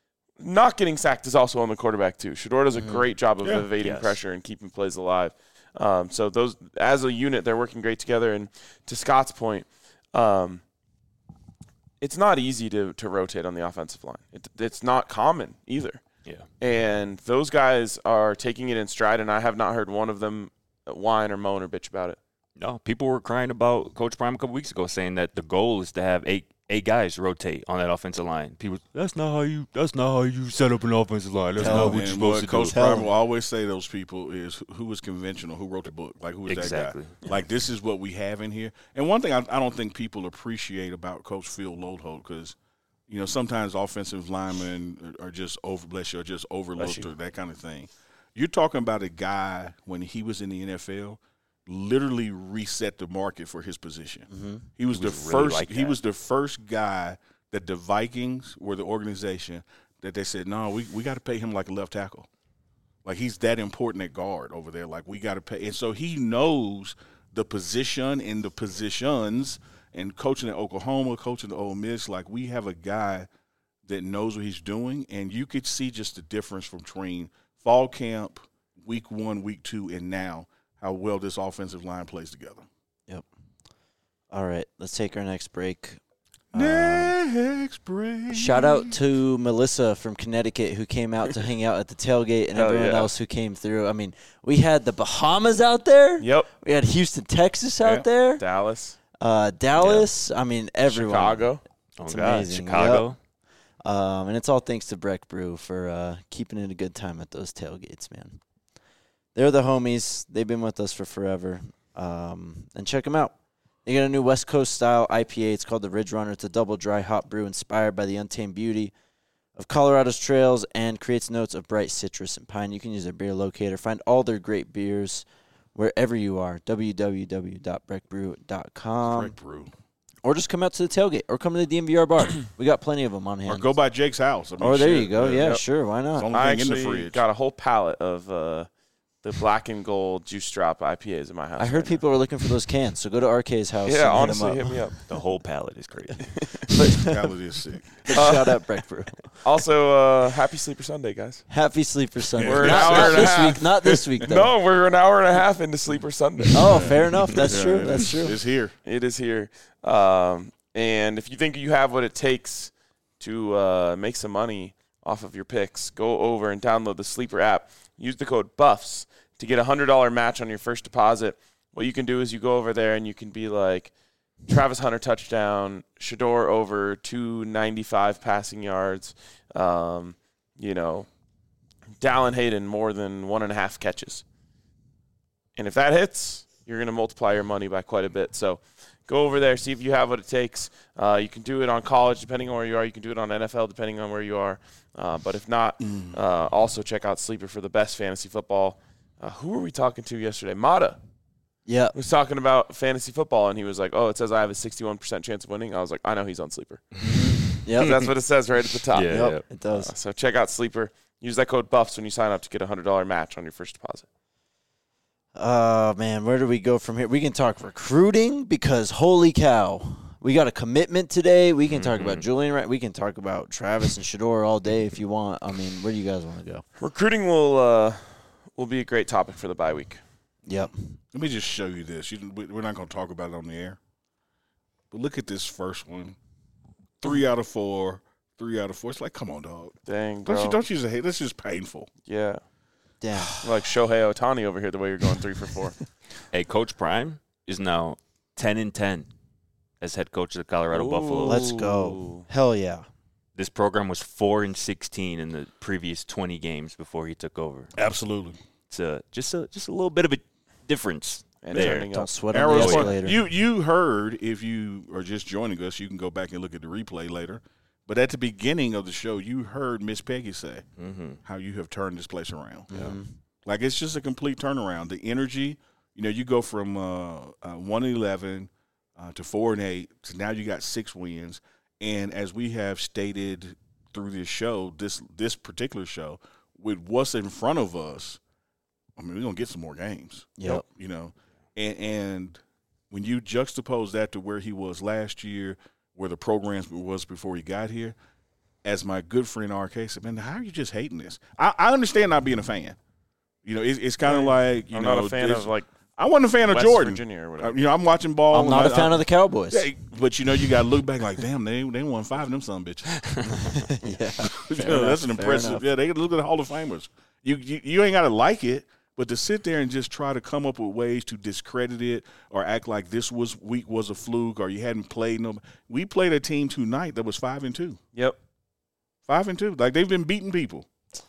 B: Not getting sacked is also on the quarterback too. Shedeur does a mm-hmm. great job of yeah. evading
D: yes.
B: pressure and keeping plays alive. Um, so those, as a unit, they're working great together. And to Scott's point, um, it's not easy to, to rotate on the offensive line. It, it's not common either.
D: Yeah.
B: And those guys are taking it in stride, and I have not heard one of them whine or moan or bitch about it.
D: No, people were crying about Coach Prime a couple weeks ago, saying that the goal is to have eight eight guys rotate on that offensive line. People, that's not how you. That's not how you set up an offensive line. That's
C: Tell
D: not what
C: him,
D: you're supposed
C: what
D: to
C: Coach
D: do.
C: Prime will always say to those people is who was conventional, who wrote the book, like who was
D: exactly.
C: that guy. Like this is what we have in here. And one thing I, I don't think people appreciate about Coach Phil Loadholt because. You know, sometimes offensive linemen are just over, bless you, are just overlooked or that kind of thing. You're talking about a guy when he was in the N F L, literally reset the market for his position. Mm-hmm. He was, he was the really first. Like he was the first guy that the Vikings were the organization that they said, no, we we got to pay him like a left tackle, like he's that important at guard over there. Like we got to pay, and so he knows the position and the positions. And coaching at Oklahoma, coaching at Ole Miss, like we have a guy that knows what he's doing, and you could see just the difference between fall camp, week one, week two, and now how well this offensive line plays together.
A: Yep. All right, let's take our next break.
C: Next um, break.
A: Shout out to Melissa from Connecticut who came out to hang out at the tailgate and
B: Hell
A: everyone
B: yeah.
A: else who came through. I mean, we had the Bahamas out there.
B: Yep.
A: We had Houston, Texas out
C: yeah.
A: there.
B: Dallas.
A: Uh, Dallas, yeah. I mean, everyone.
B: Chicago.
A: It's
D: oh, God.
A: amazing.
D: Chicago.
A: Yep. Um, and it's all thanks to Breck Brew for uh, keeping it a good time at those tailgates, man. They're the homies. They've been with us for forever. Um, and check them out. They got a new West Coast style I P A. It's called the Ridge Runner. It's a double dry hop brew inspired by the untamed beauty of Colorado's trails and creates notes of bright citrus and pine. You can use their beer locator. Find all their great beers wherever you are, w w w dot breck brew dot com.
C: Breck Brew.
A: Or just come out to the tailgate or come to the D M V R bar. We got plenty of them on hand.
C: Or go by Jake's house. I mean,
A: or there
C: shit.
A: you go. Yeah,
B: Yep.
A: sure. Why
C: It's
A: not?
C: the only
B: I
C: thing in the
B: actually
C: fridge.
B: got a whole pallet of uh, the black and gold juice drop I P As in my house.
A: I heard
B: right
A: people were looking for those cans, so go to R K's house.
B: Yeah,
A: and
B: honestly,
A: hit,
B: hit me up.
D: The whole palette is crazy.
C: Palate is sick.
A: up. Shout out Breck Brew.
B: Also, uh, happy Sleeper Sunday, guys.
A: Happy Sleeper Sunday.
B: We're an
A: not,
B: hour
A: not
B: and a
A: this
B: half.
A: week. Not this week, though.
B: No, we're an hour and a half into Sleeper Sunday.
A: Oh, fair enough. That's
C: Yeah,
A: true.
C: it
A: That's
C: is.
A: true.
C: It's here.
B: It is here. Um, and if you think you have what it takes to uh, make some money off of your picks, go over and download the Sleeper app. Use the code BUFFS to get a one hundred dollars match on your first deposit. What you can do is you go over there and you can be like, Travis Hunter touchdown, Shedeur over two ninety-five passing yards, um, you know, Dallin Hayden more than one and a half catches. And if that hits, you're going to multiply your money by quite a bit. So go over there, see if you have what it takes. Uh, you can do it on college, depending on where you are. You can do it on N F L, depending on where you are. Uh, but if not, uh, also check out Sleeper for the best fantasy football. Uh, who were we talking to yesterday? Mata
A: Yeah.
B: was talking about fantasy football, and he was like, oh, it says I have a sixty-one percent chance of winning. I was like, I know he's on Sleeper.
A: Yep.
B: That's what it says right at the top.
D: Yeah.
A: Yep, it does.
B: Uh, so check out Sleeper. Use that code BUFFS when you sign up to get a one hundred dollars match on your first deposit.
A: Oh, man, where do we go from here? We can talk recruiting because, holy cow, we got a commitment today. We can talk
D: Mm-hmm.
A: about Julian Wright. We can talk about Travis and Shador all day if you want. I mean, where do you guys want to go?
B: Recruiting will uh, will be a great topic for the bye week.
A: Yep.
C: Let me just show you this. You, we- we're not going to talk about it on the air. But look at this first one. Three out of four. Three out of four. It's like, come on, dog.
B: Dang, bro.
C: Don't you, don't use a hate. That's just painful.
B: Yeah.
A: Damn.
B: Like Shohei Ohtani over here, the way you're going three for four.
D: Hey, Coach Prime is now ten and ten as head coach of the Colorado
B: Ooh.
D: Buffalo.
A: Let's go. Hell yeah.
D: This program was four and sixteen in the previous twenty games before he took over.
C: Absolutely.
D: It's a, just a just a little bit of a difference
B: And
D: there.
B: turning
A: Don't
B: up.
A: sweat on the
C: Arrow's fun.
A: escalator.
C: You you heard, if you are just joining us, you can go back and look at the replay later. But at the beginning of the show, you heard Miss Peggy say
D: Mm-hmm.
C: how you have turned this place around.
A: Mhm.
C: Like, it's just a complete turnaround. The energy, you know, you go from uh, uh, one and eleven uh, to four and eight to now you got six wins. And as we have stated through this show, this this particular show, with what's in front of us, I mean, we're gonna get some more games.
A: Yep.
C: You know, and and when you juxtapose that to where he was last year, where the program was before he got here, as my good friend R K said, man, how are you just hating this? I, I understand not being a fan. You know, it's, it's kind of like, you
B: I'm
C: know,
B: not a fan
C: it's-
B: of like
C: I wasn't a fan of
B: West
C: Jordan.
B: Virginia or
C: Uh,
B: whatever.
C: you know, I'm watching ball.
A: I'm not
C: and
A: a
C: I-
A: fan
C: I-
A: of the Cowboys.
C: Yeah, but you know, you got to look back like, damn, they they won five of them son of bitches.
A: yeah.
C: You know, that's an
A: enough, fair
C: impressive.
A: enough.
C: Yeah, they look at the Hall of Famers. You you, you ain't got to like it, but to sit there and just try to come up with ways to discredit it or act like this was week was a fluke or you hadn't played no. We played a team tonight that was five and two.
B: Yep.
C: Five and two. Like, they've been beating people.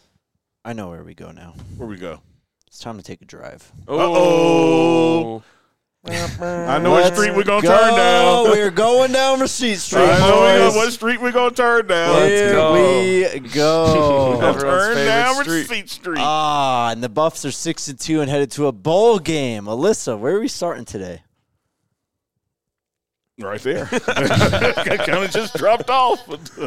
A: I know where we go now.
C: Where we go?
A: It's time to take a drive.
C: Uh-oh. I know what
A: Let's
C: street we're gonna
A: go.
C: turn down.
A: We're going down Receipt Street,
C: I know we
A: boys.
C: know what street we're gonna turn down.
B: Let's
A: Here
B: go.
A: we go.
C: We're gonna
B: Everyone's
C: turn
B: favorite
C: down
B: street.
C: Receipt Street.
A: Ah, and the Buffs are six and two and headed to a bowl game. Alyssa, where are we starting today?
C: Right there. Kind of just dropped off.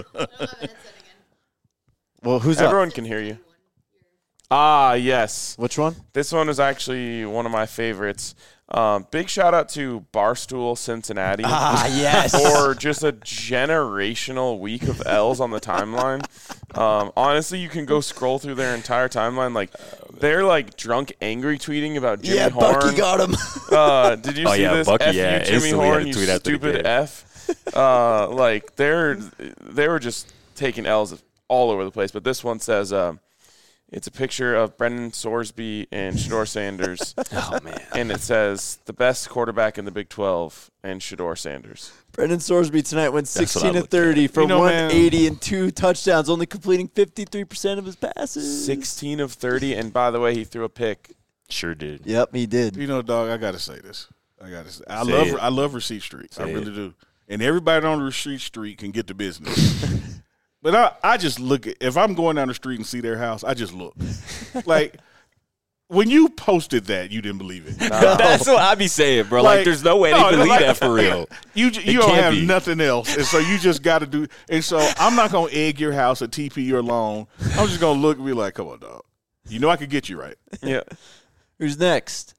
A: Well, who's up?
B: Everyone can hear you. Ah, yes.
A: Which one?
B: This one is actually one of my favorites. Um, big shout out to Barstool Cincinnati
A: Ah, yes.
B: for just a generational week of L's on the timeline. Um, honestly, you can go scroll through their entire timeline. Like, they're like drunk, angry tweeting about Jimmy
A: yeah,
B: Horn.
A: Bucky got him.
B: Uh, did you
D: Oh,
B: see
D: yeah,
B: this?
D: Bucky,
B: F
D: yeah,
B: you, Jimmy
D: instantly had
B: Horn,
D: to
B: you
D: tweet after the
B: stupid
D: game.
B: F. Uh, like they're they were just taking L's all over the place. But this one says, um, it's a picture of Brendan Sorsby and Shador Sanders,
D: Oh, man.
B: and it says the best quarterback in the Big twelve and Shador Sanders.
A: Brendan Sorsby tonight went
D: That's what I
A: sixteen and
D: looked
A: thirty for
C: You know,
A: one
C: man.
A: eighty and two touchdowns, only completing fifty-three percent of his passes.
B: Sixteen of thirty, and by the way, he threw a pick.
D: Sure did.
A: Yep, he did.
C: You know, dog, I gotta say this. I gotta say I
D: Say
C: love
D: it.
C: I love Receipt Street. I
D: Say
C: really
D: it.
C: do. And everybody on Receipt Street can get the business. But I, I just look at, if I'm going down the street and see their house, I just look. Like, when you posted that, you didn't believe it.
D: That's what I be saying, bro. Like,
C: Like,
D: there's no way
C: no,
D: they believe
C: like-
D: that for real.
C: You j- you
D: It
C: don't
D: can't
C: have
D: be.
C: nothing else, and so you just got to do. And so I'm not gonna egg your house or T P your loan. I'm just gonna look and be like, "Come on, dog. You know I could get you right."
B: Yeah.
A: Who's next?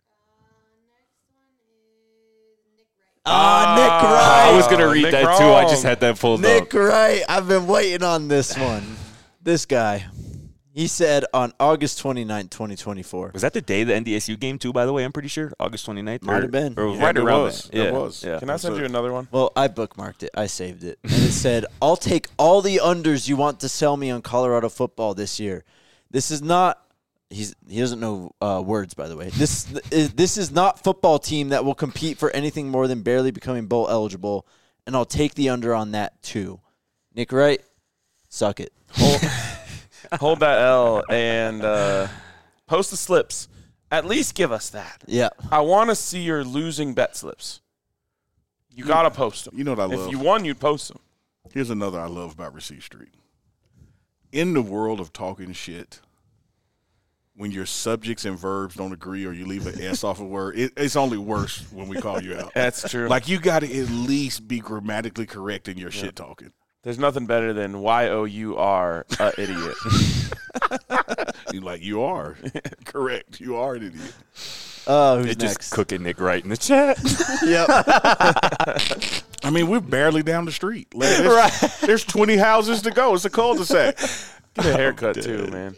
A: Ah, Nick Wright.
D: I was going to
B: Oh,
D: read
B: Nick
D: that, too. I just
B: Wrong.
D: had that pulled
A: Nick
D: up.
A: Wright. I've been waiting on this one. This guy. He said on August twenty-ninth, twenty twenty-four.
D: Was that the day of the N D S U game, too, by the way? I'm pretty sure. August twenty-ninth?
A: Might
D: or-
A: have been.
D: Or it was
C: Yeah,
D: right
C: it
D: around
C: was.
D: then.
C: It
D: Yeah.
C: was.
D: Yeah.
B: Can I send you another one?
A: Well, I bookmarked it. I saved it. And it said, I'll take all the unders you want to sell me on Colorado football this year. This is not he's he doesn't know uh, words, by the way. This is this is not football team that will compete for anything more than barely becoming bowl eligible, and I'll take the under on that too. Nick Wright, suck it.
B: Hold, hold that L and uh, post the slips. At least give us that.
A: Yeah.
B: I want to see your losing bet slips. You got to post them.
C: You know what I
B: If
C: love?
B: you won, you'd post them.
C: Here's another I love about Receipt Street. In the world of talking shit, when your subjects and verbs don't agree or you leave an S off a word, it, it's only worse when we call you out.
B: That's true.
C: Like, you got to at least be grammatically correct in your shit talking.
B: There's nothing better than Y O U R, a idiot.
C: You're like, you are. Correct. You are an idiot.
A: Oh, who's
D: They
A: next?
D: just cooking Nick right in the chat.
A: Yep.
C: I mean, we're barely down the street. Like, there's, right. there's twenty houses to go. It's a cul-de-sac.
B: Get a haircut, too, man.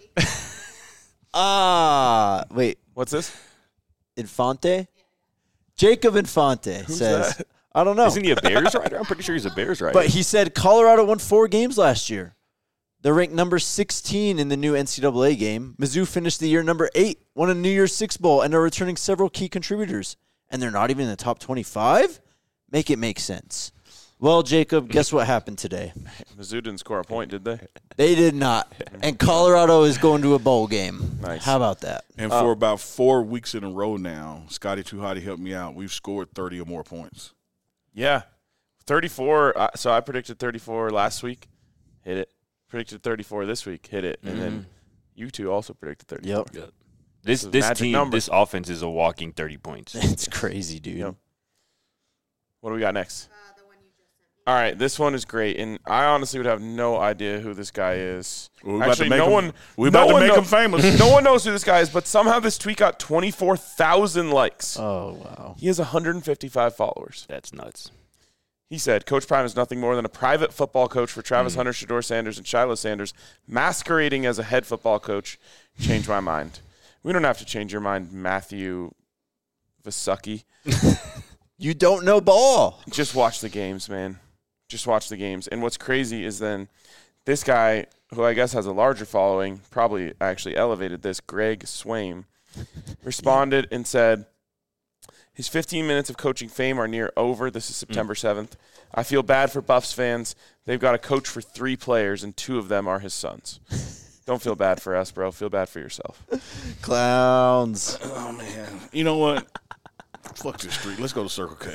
A: Ah, wait.
B: What's this?
A: Infante? Jacob Infante
B: Who's
A: says,
B: that?
A: I don't know.
D: Isn't he a Bears rider? I'm pretty sure he's a Bears rider.
A: But he said Colorado won four games last year. They're ranked number sixteen in the new N C double A game. Mizzou finished the year number eight, won a New Year's Six Bowl, and are returning several key contributors. And they're not even in the top twenty-five? Make it make sense. Well, Jacob, guess what happened today?
B: Mizzou didn't score a point, did they?
A: They did not. And Colorado is going to a bowl game.
B: Nice.
A: How about that?
C: And
B: Oh.
C: for about four weeks in a row now, Scotty Tuhati helped me out. We've scored thirty or more points.
B: Yeah. thirty-four. Uh, so I predicted thirty-four last week. Hit it. Predicted thirty-four this week. Hit it. And then you two also predicted thirty-four.
A: Yep.
D: this
B: This is
D: this
B: magic
D: team,
B: number.
D: this offense is a walking thirty points.
A: It's crazy, dude.
B: Yep. What do we got next? All right, this one is great, and I honestly would have no idea who this guy is.
C: Well, we're about
B: Actually,
C: to make
B: no
C: him-
B: one.
C: we're about
B: no
C: to
B: one
C: make
B: know-
C: him famous.
B: No one knows who this guy is, but somehow this tweet got twenty-four thousand likes.
A: Oh, wow.
B: He has one hundred fifty-five followers.
D: That's nuts.
B: He said, Coach Prime is nothing more than a private football coach for Travis Hunter, Shador Sanders, and Shiloh Sanders, masquerading as a head football coach. Change my mind. We don't have to change your mind, Matthew Vasucky.
A: You don't know ball.
B: Just watch the games, man. Just watch the games. And what's crazy is then this guy, who I guess has a larger following, probably actually elevated this, Greg Swaim, responded and said, his fifteen minutes of coaching fame are near over. This is September seventh. I feel bad for Buffs fans. They've got a coach for three players, and two of them are his sons. Don't feel bad for us, bro. Feel bad for yourself.
A: Clowns.
C: Oh, man. You know what? Fuck this street. Let's go to Circle K.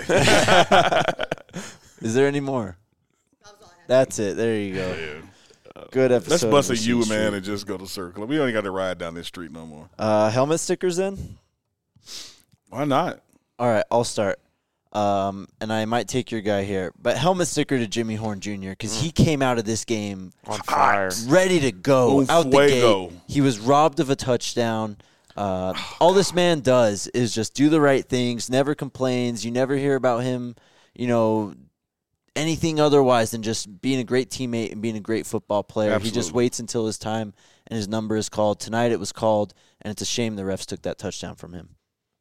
A: Is there any more? That's it. There you go.
C: Yeah.
A: Good episode.
C: Let's
A: of
C: bust a
A: Machine
C: U,
A: Street.
C: man, and just go to Circle. We don't got to ride down this street no more.
A: Uh, helmet stickers then?
C: Why not?
A: All right, I'll start. Um, and I might take your guy here. But helmet sticker to Jimmy Horn Junior because he came out of this game
B: On fire.
A: ready to go
C: Un
A: out the
C: fuego.
A: gate. He was robbed of a touchdown. Uh, all this man does is just do the right things, never complains. You never hear about him, you know, anything otherwise than just being a great teammate and being a great football player. He just
C: Absolutely.
A: waits until his time and his number is called. Tonight it was called, and it's a shame the refs took that touchdown from him.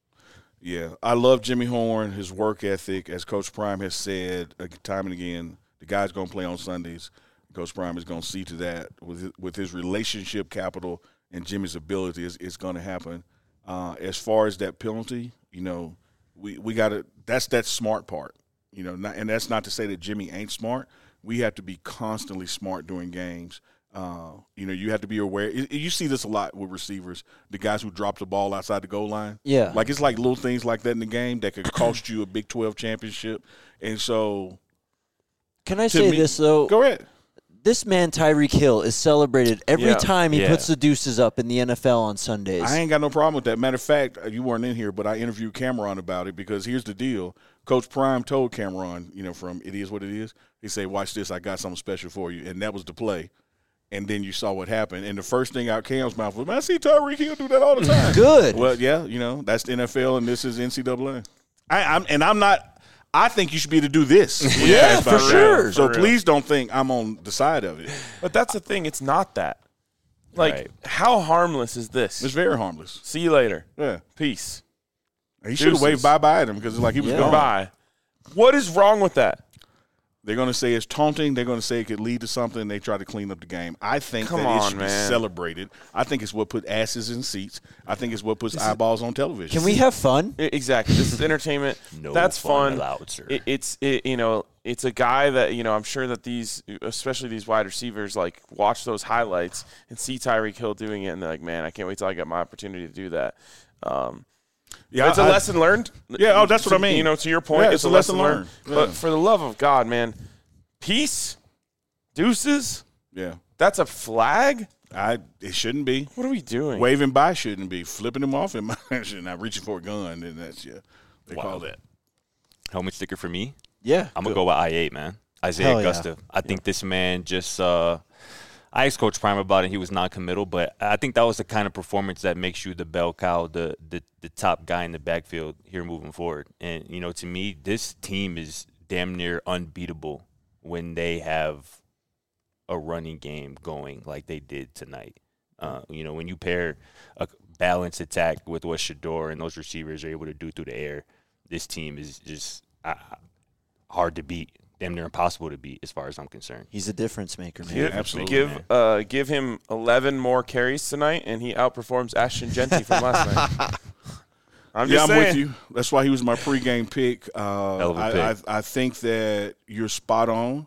C: Yeah, I love Jimmy Horn, his work ethic. As Coach Prime has said uh, time and again, the guy's going to play on Sundays. Coach Prime is going to see to that with his, with his relationship capital and Jimmy's ability. It's, it's going to happen. Uh, as far as that penalty, you know, we, we got to – that's that smart part. You know, not, and that's not to say that Jimmy ain't smart. We have to be constantly smart during games. Uh, you know, you have to be aware. You you see this a lot with receivers, the guys who drop the ball outside the goal line.
A: Yeah.
C: Like, it's like little things like that in the game that could cost you a Big twelve championship. And so
A: Can I
C: To
A: say
C: me-
A: this, though?
C: go ahead.
A: This man, Tyreek Hill, is celebrated every
B: Yeah.
A: time he
D: Yeah.
A: puts the deuces up in the N F L on Sundays.
C: I ain't got no problem with that. Matter of fact, you weren't in here, but I interviewed Cameron about it because here's the deal. Coach Prime told Cameron, you know, from It Is What It Is, he said, watch this, I got something special for you. And that was the play. And then you saw what happened. And the first thing out Cam's mouth was, man, I see Tyreek Hill do that all the time.
A: Good.
C: Well, yeah, you know, that's the N F L and this is N C double A. I, I'm, and I'm not – I think you should be able to do this. when you
A: Yeah,
C: pass by
A: for
C: the
A: sure.
C: ground. So
B: For real.
C: please don't think I'm on the side of it.
B: But that's the thing. It's not that. Like,
D: Right.
B: how harmless is this?
C: It's very harmless.
B: See you later.
C: Yeah.
B: Peace.
C: He should have waved
B: Deuces.
C: bye-bye at him because it's like he was
A: Yeah.
C: gone.
B: Goodbye. What is wrong with that?
C: They're going to say it's taunting. They're going to say it could lead to something. They try to clean up the game. I think
B: Come
C: that it
B: on,
C: should
B: man.
C: be celebrated. I think it's what put asses in seats. I think it's what puts eyeballs on television.
A: Can we have fun?
B: I- Exactly. This is entertainment.
D: No
B: That's
D: fun
B: fun.
D: allowed, sir.
B: It, it's it, you know it's a guy that you know I'm sure that these especially these wide receivers like watch those highlights and see Tyreek Hill doing it and they're like, man, I can't wait till I get my opportunity to do that. Um,
C: Yeah,
B: it's a
C: I-
B: lesson learned.
C: Yeah, oh, that's what I mean.
B: You know, to your point,
C: Yeah,
B: it's,
C: it's
B: a
C: a
B: lesson,
C: lesson
B: learned.
C: learned.
B: But
C: Yeah.
B: for the love of God, man, peace, deuces.
C: Yeah.
B: That's a flag.
C: I, it shouldn't be.
B: What are we doing?
C: Waving by shouldn't be. Flipping him off in my not reaching for a gun. And that's, yeah, they
D: Wow.
C: call that.
D: Helmet sticker for me.
A: Yeah.
D: I'm gonna go with I eight, man. Isaiah
A: Hell yeah.
D: Augusta. I think this man just uh, – I asked Coach Prime about it. He was non-committal, but I think that was the kind of performance that makes you the bell cow, the, the the top guy in the backfield here moving forward. And, you know, to me, this team is damn near unbeatable when they have a running game going like they did tonight. Uh, you know, when you pair a balanced attack with what Shedeur and those receivers are able to do through the air, this team is just uh, hard to beat. Damn near impossible to beat as far as I'm concerned.
A: He's a difference maker, man.
B: Give,
C: absolutely,
B: give
C: man.
B: uh, give him eleven more carries tonight, and he outperforms Ashton Genty from last night. I'm
C: yeah,
B: just
C: I'm
B: saying.
C: with you. That's why he was my pregame pick. Uh,
D: Hell of a
C: I,
D: pick.
C: I, I think that you're spot on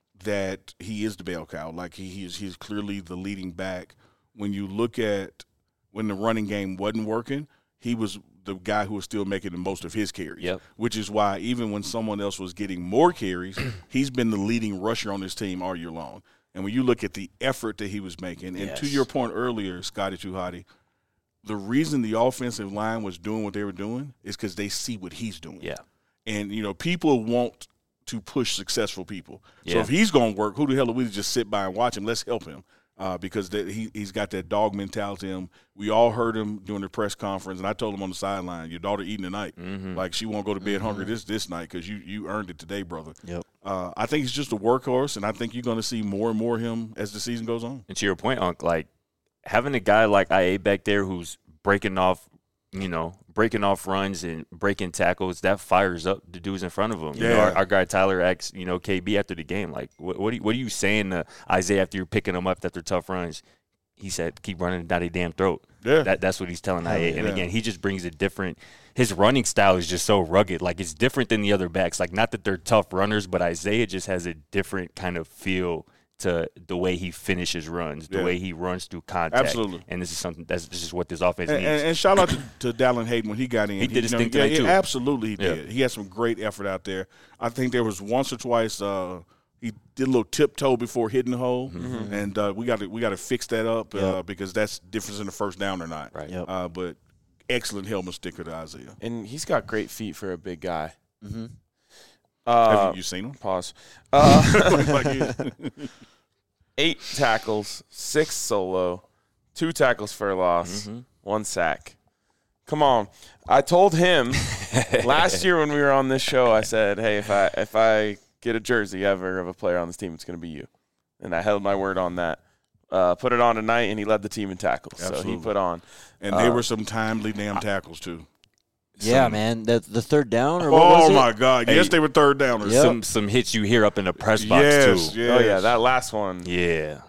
C: that he is the bell cow. Like he, he's he's clearly the leading back. When you look at when the running game wasn't working, he was the guy who was still making the most of his carries.
D: Yep.
C: Which is why even when someone else was getting more carries, he's been the leading rusher on this team all year long. And when you look at the effort that he was making, and to
D: Yes.
C: your point earlier, Scotty Tuhati, the reason the offensive line was doing what they were doing is because they see what he's doing.
D: Yeah.
C: And, you know, people want to push successful people. So
D: Yeah.
C: if he's going to work, who the hell are we to just sit by and watch him? Let's help him uh, because that he, he's got that dog mentality in him. We all heard him during the press conference, and I told him on the sideline, your daughter eating tonight.
D: Mm-hmm.
C: Like she won't go to bed hungry this this night because you, you earned it today, brother.
A: Yep.
C: Uh, I think he's just a workhorse, and I think you're going to see more and more of him as the season goes on.
D: And to your point, Unc, like having a guy like I A back there who's breaking off, you know, breaking off runs and breaking tackles, that fires up the dudes in front of him. You know,
C: Yeah.
D: our, our guy Tyler asked, you know, K B after the game, like, what, what, are, you, what are you saying to Isaiah after you're picking him up after tough runs? He said, keep running down their damn throat.
C: Yeah.
D: That, that's what he's telling I A. And
C: yeah.
D: again, he just brings a different – his running style is just so rugged. Like, it's different than the other backs. Like, not that they're tough runners, but Isaiah just has a different kind of feel to the way he finishes runs, the
C: Yeah.
D: way he runs through contact.
C: Absolutely.
D: And this is something – that's this is what this offense
C: And,
D: needs.
C: and, and shout out to, to Dallin Hayden when he got in.
D: He did his
C: you know,
D: thing
C: yeah,
D: tonight,
C: yeah,
D: too.
C: Absolutely, he
D: Yeah.
C: did. He had some great effort out there. I think there was once or twice uh, he did a little tiptoe before hitting the hole,
D: Mm-hmm.
C: and uh, we got to we got to fix that up uh,
A: Yep.
C: because that's difference in the first down or not.
D: Right.
A: Yep.
C: Uh, but excellent helmet sticker to Isaiah.
B: And he's got great feet for a big guy.
A: Mm-hmm.
B: Uh,
C: Have you, you seen him?
B: Pause. Uh,
C: Like he-
B: eight tackles, six solo, two tackles for a loss,
D: Mhm.
B: one sack. Come on. I told him last year when we were on this show, I said, hey, if I if I get a jersey ever of a player on this team, it's going to be you. And I held my word on that. Uh, put it on tonight, and he led the team in tackles. So
C: Absolutely.
B: he put on.
C: and they
B: Uh,
C: were some timely damn tackles too.
A: Yeah,
D: Some-
A: man. The the third down or what was
C: Oh
A: it?
C: my God!
D: Hey.
C: Yes, they were third downers.
A: Yep.
D: Some some hits you hear up in the press box,
C: Yes,
D: too.
C: yes.
B: Oh, yeah, that last one.
D: Yeah.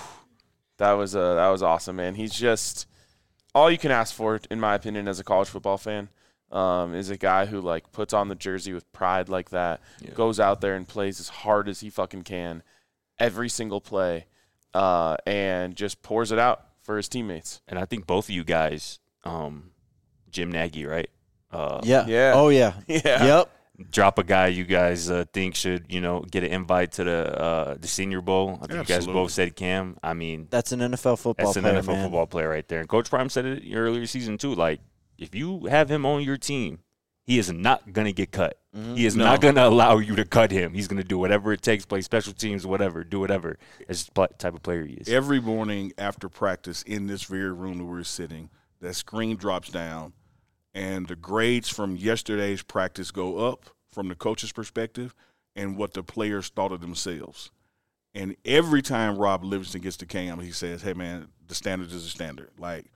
B: That was uh, that was awesome, man. He's just all you can ask for, in my opinion, as a college football fan, um, is a guy who like puts on the jersey with pride like that,
D: Yeah.
B: goes out there and plays as hard as he fucking can, every single play, uh, and just pours it out for his teammates.
D: And I think both of you guys, um, Jim Nagy, right? Uh,
A: Yeah.
B: Yeah.
A: Oh yeah.
B: Yeah.
A: Yep.
D: Drop a guy you guys uh, think should, you know, get an invite to the uh, the Senior Bowl. I think you guys
C: Absolutely.
D: both said Cam. I mean,
A: That's an N F L football
D: that's an
A: player,
D: N F L
A: man.
D: football player right there. And Coach Prime said it earlier season too. Like, if you have him on your team, he is not gonna get cut. He is
C: No.
D: not gonna allow you to cut him. He's gonna do whatever it takes, play special teams, whatever, do whatever. That's the pl- type of player he is.
C: Every morning after practice in this very room that we're sitting, that screen drops down, and the grades from yesterday's practice go up from the coach's perspective and what the players thought of themselves. And every time Rob Livingston gets to Cam, he says, hey, man, the standard is a standard. Like,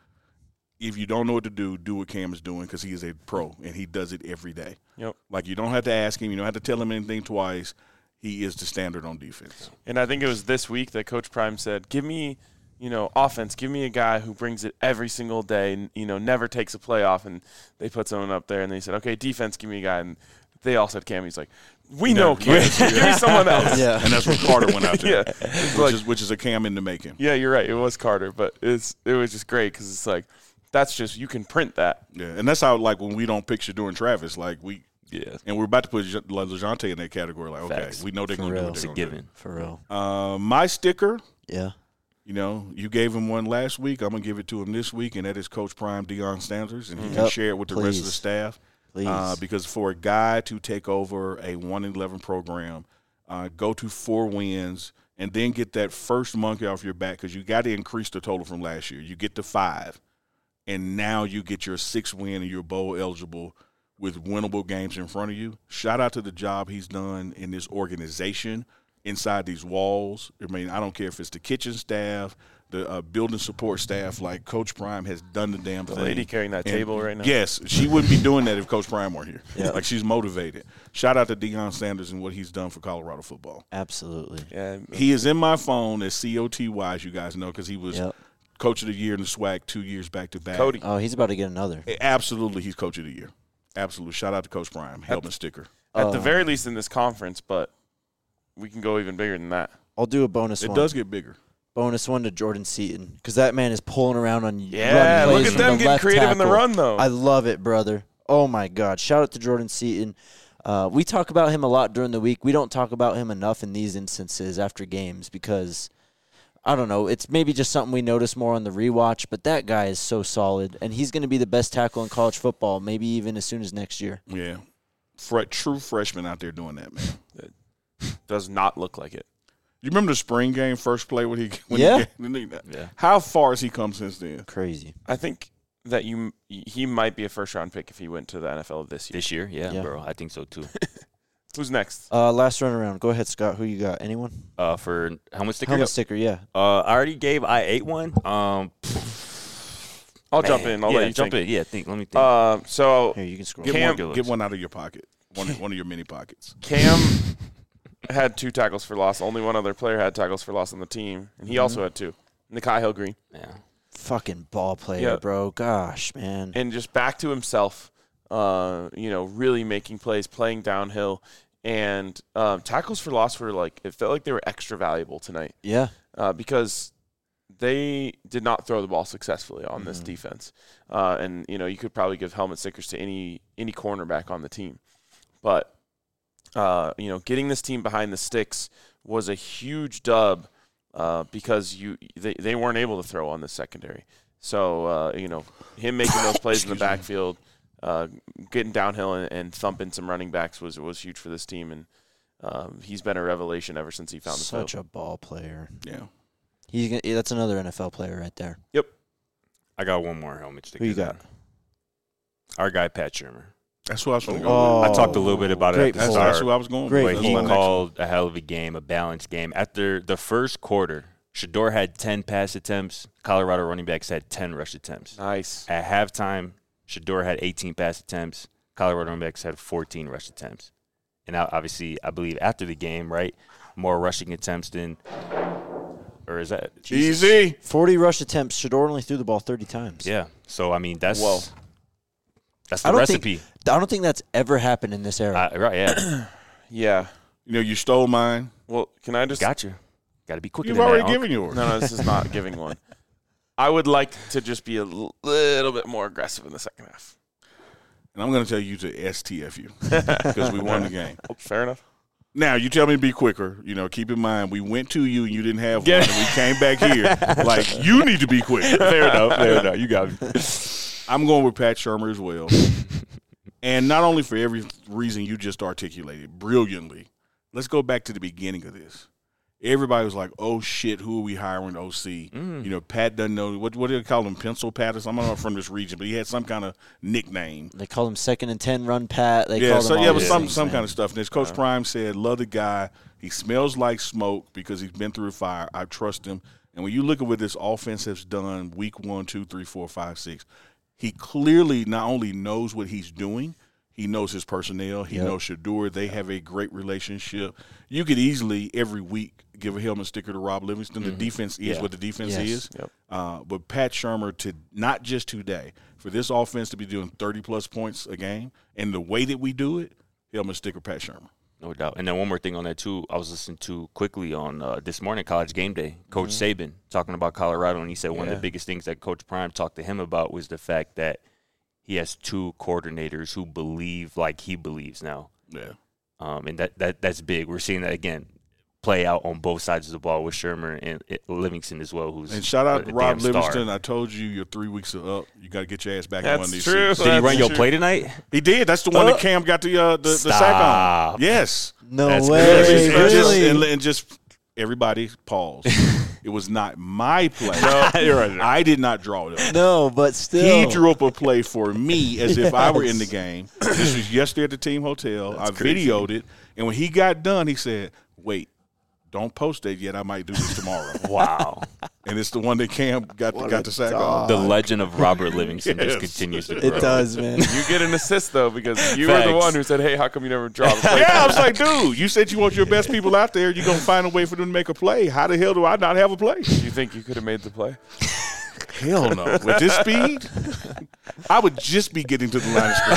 C: if you don't know what to do, do what Cam is doing because he is a pro, and he does it every day.
B: Yep.
C: Like, you don't have to ask him. You don't have to tell him anything twice. He is the standard on defense.
B: And I think it was this week that Coach Prime said, give me, you know, offense, give me a guy who brings it every single day and, you know, never takes a play off. And they put someone up there and they said, okay, defense, give me a guy. And they all said Cam. He's like, we know Cam. Give me someone else.
A: Yeah.
C: And that's what Carter went out there.
B: Yeah. It's
C: Which,
B: like,
C: is, which is a Cam in the making.
B: yeah, you're right. It was Carter, but it's it was just great because it's like, that's just, you can print that.
C: Yeah, and that's how, like, when we don't picture doing Travis, like, we
D: Yeah,
C: – and we're about to put Je- LeJounte in that category. Like, okay,
D: Facts.
C: we know they're
A: For
C: going to do
A: real.
C: what
D: it's
C: they're
D: a
C: going to
D: given.
A: For real.
C: do. Uh, my sticker,
A: Yeah.
C: you know, you gave him one last week. I'm going to give it to him this week, and that is Coach Prime Deion Sanders, and he can
A: Yep,
C: share it with the rest of the
A: please.
C: staff.
A: Please.
C: Uh, because for a guy to take over a one and eleven program, uh, go to four wins, and then get that first monkey off your back because you got to increase the total from last year. You get to five, and now you get your sixth win and you're bowl eligible with winnable games in front of you. Shout out to the job he's done in this organization inside these walls. I mean, I don't care if it's the kitchen staff, the uh, building support staff, like Coach Prime has done the damn
B: The
C: thing.
B: lady carrying that
C: And
B: table right now.
C: Yes, she wouldn't be doing that if Coach Prime weren't here.
A: Yeah.
C: Like, she's motivated. Shout out to Deion Sanders and what he's done for Colorado football.
A: Absolutely.
B: Yeah.
C: He is in my phone as C O T Y, as you guys know, because he was
A: Yep.
C: Coach of the Year in the SWAC two years back to back.
B: Cody.
A: Oh, he's about to get another.
C: Absolutely, he's Coach of the Year. Absolutely. Shout out to Coach Prime. Helmet sticker.
B: At the
A: Uh,
B: very least in this conference, but we can go even bigger than that.
A: I'll do a bonus
C: It
A: one.
C: does get bigger.
A: Bonus one to Jordan Seaton because that man is pulling around on
B: Yeah,
A: run
B: look
A: plays
B: at
A: from
B: them
A: the
B: getting
A: left
B: creative in the
A: tackle.
B: run, though.
A: I love it, brother. Oh, my God. Shout out to Jordan Seaton. Uh, we talk about him a lot during the week. We don't talk about him enough in these instances after games because, I don't know, it's maybe just something we notice more on the rewatch, but that guy is so solid, and he's going to be the best tackle in college football, maybe even as soon as next year.
C: Yeah. Fre- true freshman out there doing that, man.
B: Does not look like it.
C: You remember the spring game first play when he when
A: Yeah.
C: he,
D: Yeah.
C: How far has he come since then?
A: Crazy.
B: I think that you he might be a first round pick if he went to the N F L this year.
D: This year, yeah,
A: Yeah.
D: bro. I think so too.
B: Who's next?
A: Uh, last run around. Go ahead, Scott. Who you got? Anyone?
D: Uh, for helmet sticker.
A: Helmet sticker, yeah.
D: Uh, I already gave I eight one. Um,
B: I'll
D: man,
B: jump in. I'll
D: yeah,
B: let you
D: jump
B: think.
D: in. Yeah, think. Let me think.
B: Uh, so
A: Here, you can scroll.
C: Get
B: Cam-
C: one, get one out of your pocket. One, one of your mini pockets.
B: Cam had two tackles for loss. Only one other player had tackles for loss on the team, and he
A: Mm-hmm.
B: also had two. Nikai Hill-Green.
D: yeah.
A: Fucking ball player,
B: Yeah.
A: bro. Gosh, man.
B: And just back to himself, uh, you know, really making plays, playing downhill. And um, tackles for loss were like, it felt like they were extra valuable tonight
A: Yeah.
B: uh, because they did not throw the ball successfully on this
A: Mhm.
B: defense. Uh, and, you know, you could probably give helmet stickers to any any cornerback on the team. But, uh, you know, getting this team behind the sticks was a huge dub uh, because you they, they weren't able to throw on the secondary. So, uh, you know, him making those plays in the
C: Excuse me.
B: backfield, uh, getting downhill and, and thumping some running backs was was huge for this team. And um, he's been a revelation ever since he found the field.
A: Such a ball player.
C: Yeah.
A: He's gonna, yeah, that's another N F L player right there.
D: I got one more helmet sticker.
A: Who you got?
D: Our guy Pat Shermer.
C: That's what I was going to go
A: Oh,
C: with.
D: I talked a little bit about it
A: great
D: at the
C: That's,
A: pull.
C: that's
D: start.
C: who I was going
A: Great
C: with.
D: But
C: That's
D: he
C: my next one.
D: called a hell of a game, a balanced game. After the first quarter, Shador had ten pass attempts. Colorado running backs had ten rush attempts.
B: Nice.
D: At halftime, Shador had eighteen pass attempts. Colorado running backs had fourteen rush attempts. And now, obviously, I believe after the game, right, more rushing attempts than – or is that –
C: Easy.
A: forty rush attempts. Shador only threw the ball thirty times.
D: Yeah. So, I mean, that's
B: Whoa.
D: that's
A: I
D: the
A: don't
D: recipe.
A: think I don't think that's ever happened in this era.
D: Uh, right, yeah.
B: Yeah.
C: You know, you stole mine.
B: Well, can I just
D: Got you. Got to be quicker
C: You've
D: than
C: already
D: that, Unc.
C: given yours.
B: No, no, this is not giving one. I would like to just be a l- little bit more aggressive in the second half.
C: And I'm going to tell you to S T F you because we won the game.
B: Oh, fair enough.
C: Now, you tell me to be quicker. You know, keep in mind, we went to you and you didn't have one. And we came back here. Like, you need to be quicker.
D: Fair enough. Fair enough. You got me.
C: I'm going with Pat Shermer as well. And not only for every reason you just articulated brilliantly, let's go back to the beginning of this. Everybody was like, oh, shit, who are we hiring O C?
D: Mm.
C: You know, Pat doesn't know. What, what do they call him, Pencil Pat or something? I'm not from this region, but he had some kind of nickname.
A: They call him second and ten run Pat. They
C: yeah,
A: call
C: so
A: him
C: yeah,
A: all
C: but
A: these
C: some
A: things,
C: some
A: man.
C: kind of stuff. And as Coach Prime said, love the guy. He smells like smoke because he's been through the fire. I trust him. And when you look at what this offense has done, week one, two, three, four, five, six, he clearly not only knows what he's doing, he knows his personnel. He
A: Yep.
C: knows Shador. They have a great relationship. You could easily every week give a helmet sticker to Rob Livingston. The defense is
A: Yeah.
C: what the defense
A: Yes.
C: is.
B: Yep.
C: Uh, but Pat Shermer, to not just today, for this offense to be doing thirty-plus points a game, and the way that we do it, helmet sticker Pat Shermer.
D: No doubt. And then one more thing on that, too. I was listening to quickly on uh, this morning, College Game Day, Coach Saban talking about Colorado, and he said one of
B: Yeah.
D: the biggest things that Coach Prime talked to him about was the fact that he has two coordinators who believe like he believes now.
C: Yeah.
D: Um, and that, that that's big. We're seeing that, again, play out on both sides of the ball with Shermer and uh, Livingston as well, who's
C: And shout out
D: a
C: to Rob
D: damn star.
C: Livingston. I told you your three weeks are up. You got to get your ass back in one of
B: That's
C: these
B: true.
C: seats.
D: Did he
B: That's
D: run your
B: true.
D: play tonight?
C: He did. That's the one
D: Uh,
C: that Cam got the uh, the, the sack
D: stop.
C: on. Yes.
A: No
D: That's
A: way.
D: good.
C: and, just,
A: Really?
C: and, and just everybody pause. It was not my play.
D: You're right.
C: I did not draw it up.
A: No, but still.
C: He drew up a play for me as if I were in the game. This was yesterday at the team hotel.
D: That's
C: I
D: crazy.
C: videoed it, and when he got done, he said, "Wait, don't post it yet. I might do this tomorrow."
D: Wow.
C: And it's the one that Cam got to,
A: What
C: got
A: a
C: to sack
A: dog.
C: off.
D: The legend of Robert Livingston
C: Yes.
D: just continues to grow.
A: It does, man.
B: You get an assist though because you were the
D: Facts.
B: one who said, "Hey, how come you never draw the play?"
C: Yeah, I was like, dude, you said you want your best people out there. You're going to find a way for them to make a play. How the hell do I not have a play?
B: Do you think you could have made the play?
C: Hell no. With this speed, I would just be getting to the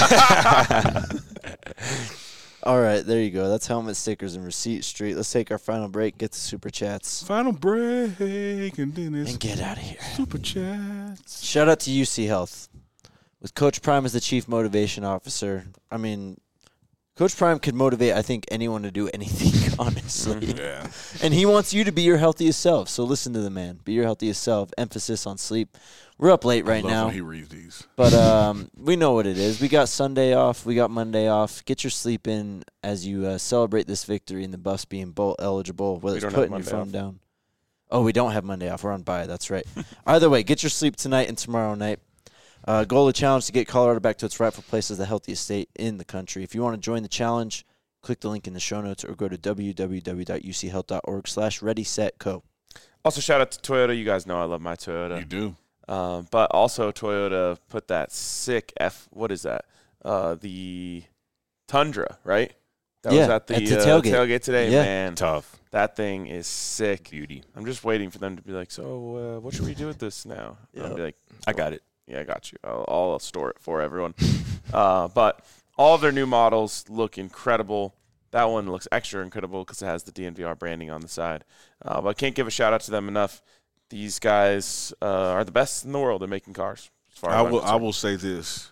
C: line of scrimmage.
A: All right, there you go. That's helmet stickers and receipt street. Let's take our final break, get the super chats,
C: Final break, and then it's
A: and get out of here.
C: super chats.
A: Shout out to U C Health. With Coach Prime as the chief motivation officer, I mean, Coach Prime could motivate, I think, anyone to do anything, honestly.
C: Yeah.
A: And he wants you to be your healthiest self. So listen to the man. Be your healthiest self. Emphasis on sleep. We're up late right
C: I love
A: now.
C: when he reads these.
A: But um, we know what it is. We got Sunday off. We got Monday off. Get your sleep in as you uh, celebrate this victory and the Buffs being bowl eligible, whether
B: We
A: it's
B: don't have
A: putting your
B: Monday
A: phone
B: off.
A: down. Oh, we don't have Monday off. We're on bye. That's right. Either way, get your sleep tonight and tomorrow night. Uh, goal of the challenge to get Colorado back to its rightful place as the healthiest state in the country. If you want to join the challenge, click the link in the show notes or go to w w w dot u c health dot org slash ready set co.
B: Also, shout out to Toyota. You guys know I love my Toyota.
C: You do.
B: Um, but also, Toyota put that sick F. What is that? Uh, the Tundra, right? That was
A: Yeah,
B: at the,
A: at the
B: uh,
A: tailgate.
B: tailgate today.
A: Yeah.
B: Man,
D: Tough.
B: that thing is sick.
D: Beauty.
B: I'm just waiting for them to be like, so uh, what should we do with this now? And I'll
A: Yep.
B: be like,
D: I got it.
B: yeah, I got you. I'll, I'll store it for everyone. uh, but all of their new models look incredible. That one looks extra incredible because it has the D N V R branding on the side. Uh, but I can't give a shout out to them enough. These guys uh, are the best in the world at making cars. As far as
C: I
B: I'm
C: will. I
B: concerned.
C: will say this.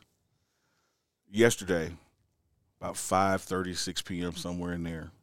C: Yesterday, about five thirty, six p.m. somewhere in there,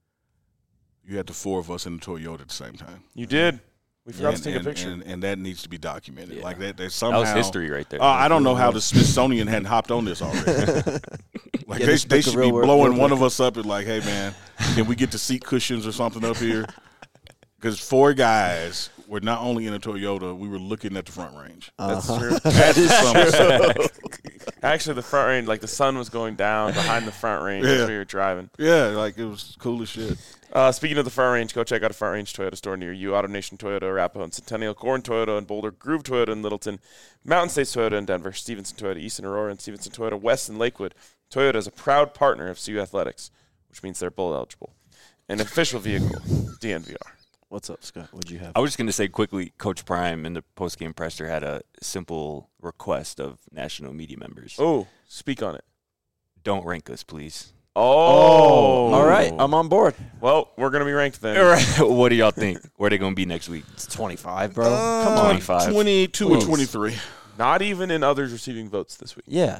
C: you had the four of us in the Toyota at the same time.
B: You did. We forgot
C: and,
B: to take
C: and,
B: a picture.
C: and, and that needs to be documented.
D: Yeah.
C: Like that. That
D: That
C: somehow.
D: was history right there.
C: Uh, I don't know how the Smithsonian hadn't hopped on this already. Like they,
A: Guinness
C: they
A: Book of
C: should
A: Real
C: be
A: World
C: blowing
A: Record.
C: one of us up and like, hey man, can we get the seat cushions or something up here? Because four guys were not only in a Toyota, we were looking at the front range.
B: That's
A: Uh-huh.
B: true.
C: That is something.
B: Actually, the front range, like the sun was going down behind the front range as
C: Yeah.
B: we were driving.
C: Yeah, like it was cool as shit.
B: Uh, speaking of the front range, go check out a front range Toyota store near you. Auto Nation Toyota, Arapahoe and Centennial, Corn Toyota in Boulder, Groove Toyota in Littleton, Mountain States Toyota in Denver, Stevenson Toyota, Easton Aurora, and Stevenson Toyota West in Lakewood. Toyota is a proud partner of C U Athletics, which means they're bowl eligible. An official vehicle, D N V R.
A: What's up, Scott? What'd you have?
D: I was just going to say quickly, Coach Prime in the post-game presser had a simple request of national media members.
B: Oh, speak on it.
D: Don't rank us, please.
B: Oh.
A: All right. I'm on board.
B: Well, we're going to be ranked then.
D: All right. What do y'all think? Where they going to be next week?
A: It's twenty-five, bro. Come on.
D: twenty-five.
C: twenty-two
A: Please.
C: or twenty-three.
B: Not even in others receiving votes this week.
A: Yeah,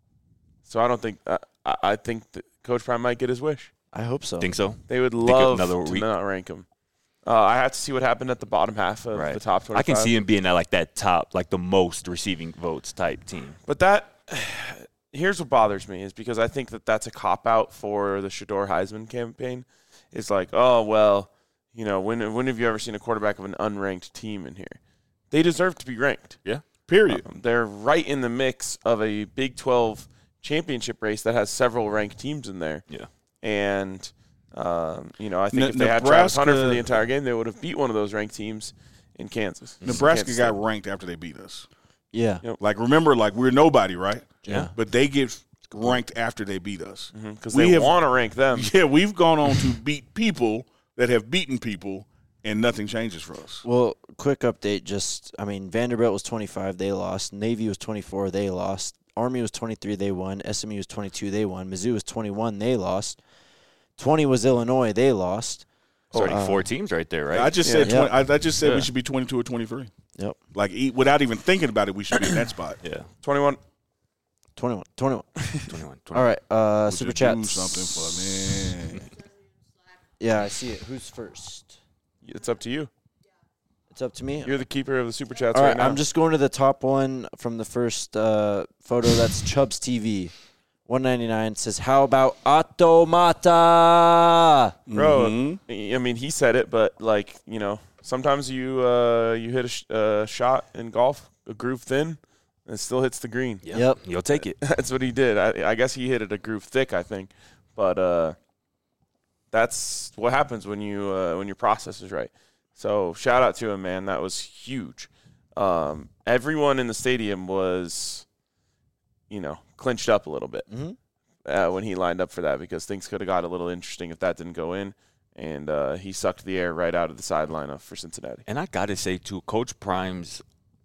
B: So I don't think uh, I, I think that Coach Prime might get his wish.
A: I hope so.
D: Think so?
B: They would
D: of
B: love
D: another
B: to
D: week?
B: not rank him. Uh, I have to see what happened at the bottom half of
D: Right.
B: the top twenty-five.
D: I can see him being at like that top, like the most receiving votes type team.
B: But that here's what bothers me is because I think that that's a cop out for the Shador Heisman campaign. It's like, oh well, you know, when when have you ever seen a quarterback of an unranked team in here? They deserve to be ranked.
D: Yeah.
C: Period.
B: Um, they're right in the mix of a Big twelve championship race that has several ranked teams in there.
D: Yeah.
B: And um, you know, I think
C: Ne-
B: if they had Travis Hunter for
C: Nebraska-
B: the entire game, they would have beat one of those ranked teams in Kansas.
C: Nebraska
B: Kansas
C: got
B: State.
C: ranked after they beat us.
A: Yeah.
B: Yep.
C: Like, remember, like, we're nobody, right?
A: Yeah.
C: But they get ranked after they beat us.
B: because
C: We
B: they
C: have-
B: want to rank them.
C: Yeah, we've gone on to beat people that have beaten people, and nothing changes for us.
A: Well, quick update. Just, I mean, Vanderbilt was twenty-five. They lost. Navy was twenty-four. They lost. Army was twenty-three. They won. S M U was twenty-two. They won. Mizzou was twenty-one. They lost. twenty was Illinois. They lost.
D: It's already
A: Uh,
D: four teams right there, right?
C: I just
B: Yeah.
C: said twenty,
A: Yeah.
C: I, I just said
B: Yeah.
C: we should be twenty-two or twenty-three.
A: Yep.
C: Like, e- without even thinking about it, we should be in that spot.
D: yeah.
B: twenty-one.
A: twenty-one. twenty-one.
D: twenty-one.
A: All right. Uh,
C: Would
A: super
C: you
A: chat.
C: do something for me.
A: Yeah, I see it. Who's first?
B: It's up to you.
A: It's up to me.
B: You're the keeper of the super chats
A: All
B: right,
A: right,
B: now.
A: I'm just going to the top one from the first uh, photo. That's Chubbs T V. one ninety-nine says, how about Ot- Pato Mata.
B: Bro,
C: Mhm.
B: I mean, he said it, but, like, you know, sometimes you uh, you hit a sh- uh, shot in golf, a groove thin, and it still hits the green.
D: Yeah.
A: Yep.
D: You'll take it.
B: That's what he did. I, I guess he hit it a groove thick, I think. But uh, that's what happens when you uh, when your process is right. So shout out to him, man. That was huge. Um, everyone in the stadium was, you know, clinched up a little bit
A: Mm-hmm.
B: uh, when he lined up for that, because things could have got a little interesting if that didn't go in. And uh, he sucked the air right out of the sideline of- for Cincinnati.
D: And I got to say, too, Coach Prime's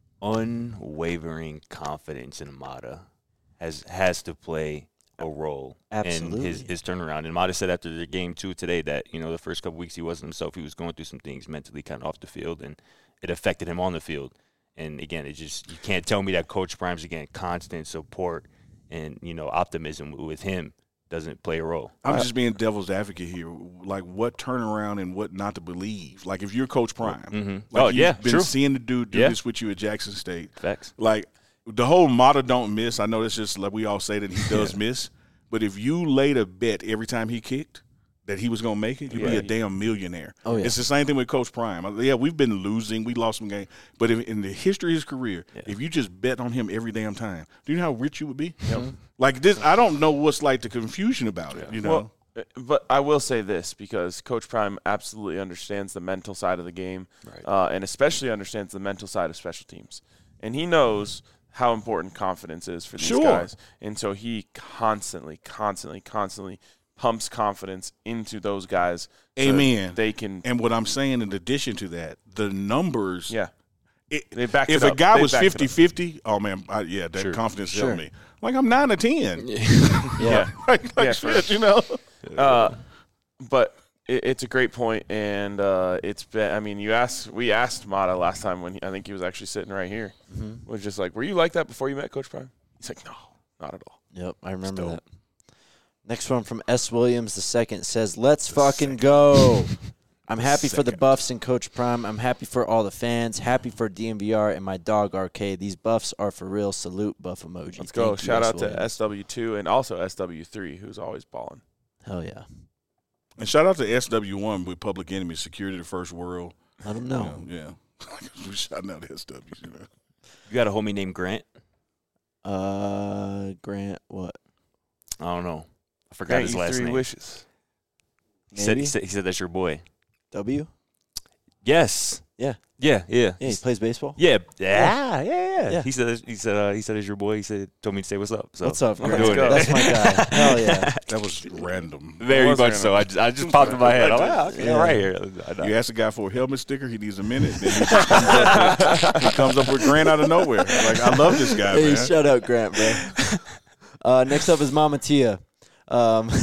D: unwavering confidence in Mata has has to play a role
A: Absolutely.
D: in his, his turnaround. And Mata said after the game, too, today that, you know, the first couple weeks he wasn't himself. He was going through some things mentally kind of off the field, and it affected him on the field. And, again, it just you can't tell me that Coach Prime's, again, constant support and, you know, optimism with him doesn't play a role.
C: I'm just being devil's advocate here. Like, what turnaround and what not to believe? Like, if you're Coach Prime,
D: Mm-hmm.
C: like
D: Oh,
C: you've
D: yeah,
C: been
D: true.
C: seeing the dude do
D: Yeah.
C: this with you at Jackson State.
D: Facts.
C: Like, the whole Mata don't miss. I know it's just like we all say that he does miss. But if you laid a bet every time he kicked that he was going to make it, you'd be
B: Yeah.
C: a damn millionaire.
A: Oh, yeah.
C: It's the same thing with Coach Prime. Yeah, we've been losing. We lost some games. But if, in the history of his career,
D: Yeah.
C: if you just bet on him every damn time, do you know how rich you would be? Like this, I don't know what's like the confusion about it, you know?
B: Well, uh, but I will say this, because Coach Prime absolutely understands the mental side of the game,
D: Right.
B: uh, and especially understands the mental side of special teams. And he knows how important confidence is for these
C: Sure.
B: guys. And so he constantly, constantly, constantly pumps confidence into those guys. so
C: Amen.
B: They can,
C: And what I'm saying in addition to that, the numbers.
B: yeah.
C: It,
B: They backed
C: if
B: it
C: a
B: up.
C: guy
B: They
C: was
B: backed it up.
C: fifty-fifty, oh, man, I, yeah, that
D: Sure.
C: confidence
A: Sure.
C: helped me. Like, I'm nine or ten.
A: Yeah.
C: like, like
B: Yeah,
C: shit, you know?
B: Uh, but it, it's a great point, and uh, it's been. I mean, you asked. We asked Mata last time when he, I think he was actually sitting right here.
A: Mm-hmm.
B: Was just like, were you like that before you met Coach Prime? He's like, no, not at all.
A: Yep, I remember
C: dope.
A: that. Next one from S. Williams the second says, "Let's fucking go." I'm happy for the
C: second.
A: Buffs and Coach Prime. I'm happy for all the fans. Happy for D M V R and my dog R K. These Buffs are for real. Salute, Buff emoji.
B: Let's go.
A: Thank you,
B: Shout
A: S.
B: out to
A: Williams.
B: S W two and also S W three, who's always balling.
A: Hell yeah.
C: And shout out to S W one with Public Enemy, Security of the First World.
A: Let them
C: You
A: know.
C: know, yeah. We're shouting out S Ws, you know.
D: You got a homie named Grant?
A: Uh, Grant, what?
D: I don't know. I forgot
B: Grant
D: his
B: you
D: last
B: three
D: name.
B: wishes.
D: He said,
A: Maybe?
D: he, said, he said that's your boy.
A: W?
D: Yes.
A: Yeah.
D: Yeah, yeah.
A: Yeah, he plays baseball.
D: Yeah, yeah, yeah, yeah.
A: Yeah.
D: He said, he said, uh, he said, "It's your boy." He said, told me to say what's up. So
A: What's up,
D: we're
A: Grant?
D: doing it.
A: That's my guy. Hell yeah.
C: That was random.
D: Very
B: was
D: much
B: random.
D: so. I just, I just popped in my head. I'm like, oh, okay,
A: Yeah.
D: right here. I,
C: You ask a guy for a helmet sticker, he needs a minute. Then he, comes up with, he comes up with Grant out of nowhere. Like, I love this guy,
A: Hey,
C: man.
A: shout out Grant, bro. uh, next up is Mama Tia. Um,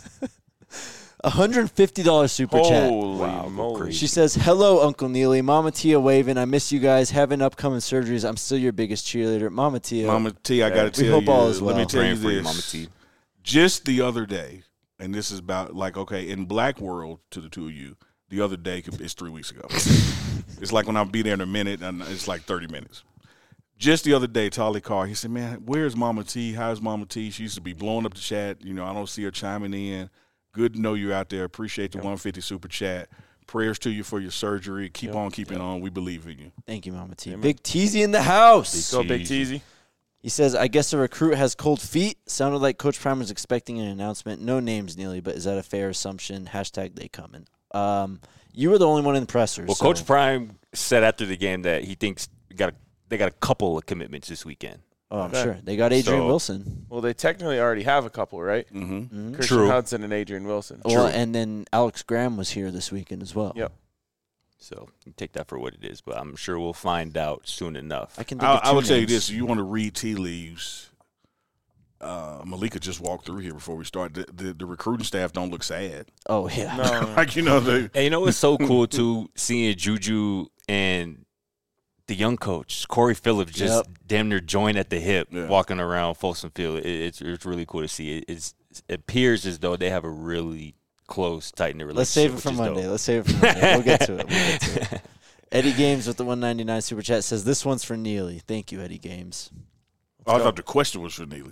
A: one hundred fifty dollars super chat.
B: Holy
D: Wow,
B: moly.
D: crazy.
A: She says, "Hello, Uncle Neely. Mama Tia waving. I miss you guys. Having upcoming surgeries. I'm still your biggest cheerleader. Mama Tia."
C: Mama T, I got to
A: We
C: tell
A: hope
C: you,
A: all is
C: let me
A: well.
C: tell you
D: praying for you,
C: this.
D: Mama T.
C: Just the other day, and this is about, like, okay, in Black World, to the two of you, the other day could- it's three weeks ago. It's like when I'll be there in a minute, and it's like thirty minutes. Just the other day, Tolly called. He said, man, where's Mama T? How's Mama T? She used to be blowing up the chat. You know, I don't see her chiming in. Good to know you out there. Appreciate the one hundred fifty super chat. Prayers to you for your surgery. Keep
B: Yep.
C: on keeping on. We believe in you.
A: Thank you, Mama T.
B: Amen.
A: Big Teasy in the house.
B: Go Big
D: Jeez.
B: Teasy.
A: He says, "I guess a recruit has cold feet." Sounded like Coach Prime was expecting an announcement. No names, Neely, but is that a fair assumption? Hashtag they coming. Um, you were the only one in the presser.
D: Well,
A: so-
D: Coach Prime said after the game that he thinks we got a, they got a couple of commitments this weekend.
A: Oh, I'm
B: Okay.
A: sure. They got Adrian
D: So-
A: Wilson.
B: Well, they technically already have a couple, right?
C: Mm-hmm.
A: Mhm.
B: Christian
D: True.
B: Hudson and Adrian Wilson.
A: Well, and then Alex Graham was here this weekend as well.
B: Yep.
D: So you take that for what it is, but I'm sure we'll find out soon enough.
A: I can think
C: I,
A: of two
C: I would tell you
A: names.
C: this: you want to read tea leaves. Uh, Malika just walked through here before we start. The, the, the recruiting staff don't look sad.
A: Oh, yeah.
B: No,
C: Like, you know, they,
D: And you know what's so cool too, seeing Juju and the young coach Corey Phillips just
A: Yep.
D: damn near joined at the hip,
C: Yeah.
D: walking around Folsom Field. It, it's it's really cool to see. It, it's, it appears as though they have a really close, tight knit relationship.
A: Let's save it
D: which
A: for
D: is
A: Monday.
D: dope.
A: Let's save it for Monday. We'll get to it. We'll get to it. Eddie Games with the one ninety-nine super chat says, "This one's for Neely." Thank you, Eddie Games.
C: oh, I thought the question was for Neely.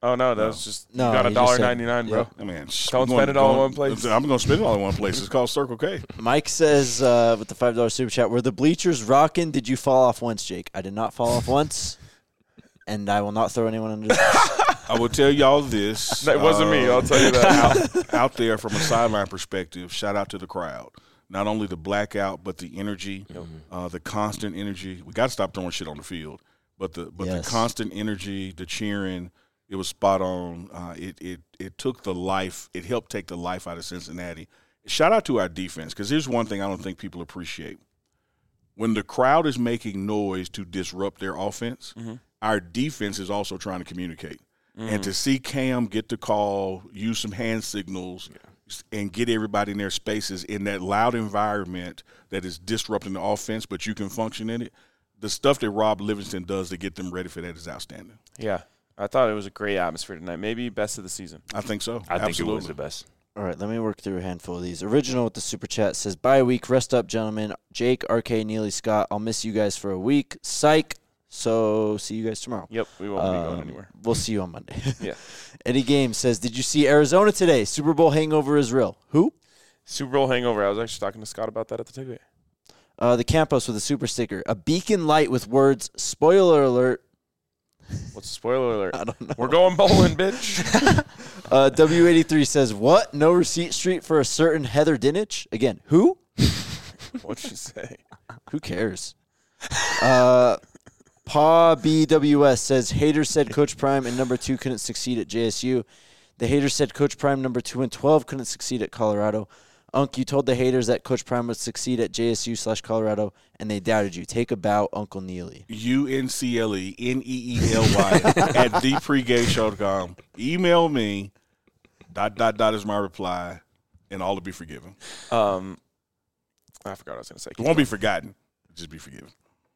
B: Oh no, that
C: No.
B: was just
A: No,
B: you got a
A: he just
B: dollar
A: said-
B: ninety nine, bro.
A: Yep.
C: I mean, sh-
B: Don't
C: we're
B: spend it all in
C: going-
B: one place.
C: I'm going to spend it all in one place. It's called Circle K.
A: Mike says uh, with the five dollar super chat, were the bleachers rocking? Did you fall off once, Jake? I did not fall off once, and I will not throw anyone under the bus.
C: I will tell y'all this.
B: That wasn't me.
C: uh,
B: I'll tell you that.
C: out, out there from a sideline perspective, shout out to the crowd. Not only the blackout, but the energy, uh, the constant energy. We got to stop throwing shit on the field, but the but
A: Yes.
C: the constant energy, the cheering, it was spot on. Uh, it it it took the life. It helped take the life out of Cincinnati. Shout out to our defense, because here's one thing I don't think people appreciate: when the crowd is making noise to disrupt their offense,
B: Mm-hmm.
C: our defense is also trying to communicate. And to see Cam get the call, use some hand signals, and get everybody in their spaces in that loud environment that is disrupting the offense, but you can function in it, the stuff that Rob Livingston does to get them ready for that is outstanding.
B: Yeah, I thought it was a great atmosphere tonight. Maybe best of the season.
C: I think so.
D: I think
C: Absolutely.
D: it was the best.
A: All right, let me work through a handful of these. Original with the super chat says, bye week, rest up, gentlemen. Jake, R K, Neely, Scott, I'll miss you guys for a week. Psych. So see you guys tomorrow.
B: Yep, we won't be going
A: Um,
B: anywhere.
A: We'll see you on Monday.
B: Yeah.
A: Eddie Game says, did you see Arizona today? Super Bowl hangover is real. Who?
B: Super Bowl hangover. I was actually talking to Scott about that at the tailgate.
A: Uh, the Campos with a super sticker. A beacon light with words, spoiler alert.
B: What's the spoiler alert?
A: I don't know.
B: We're going bowling, bitch.
A: Uh, W eighty-three says, what? No receipt street for a certain Heather Dinich? Again, who?
B: What'd she say?
A: Who cares? Uh, Pa B W S says, haters said Coach Prime and number two couldn't succeed at J S U. The haters said Coach Prime number two and twelve couldn't succeed at Colorado. Unc, you told the haters that Coach Prime would succeed at J S U slash Colorado, and they doubted you. Take a bow, Uncle Neely.
C: U N C L E N E E L Y at the pregame show dot com. Email me. Dot, dot, dot is my reply, and all will be forgiven.
B: Um, I forgot what I was going to say.
C: It won't be forgotten. Just be forgiven.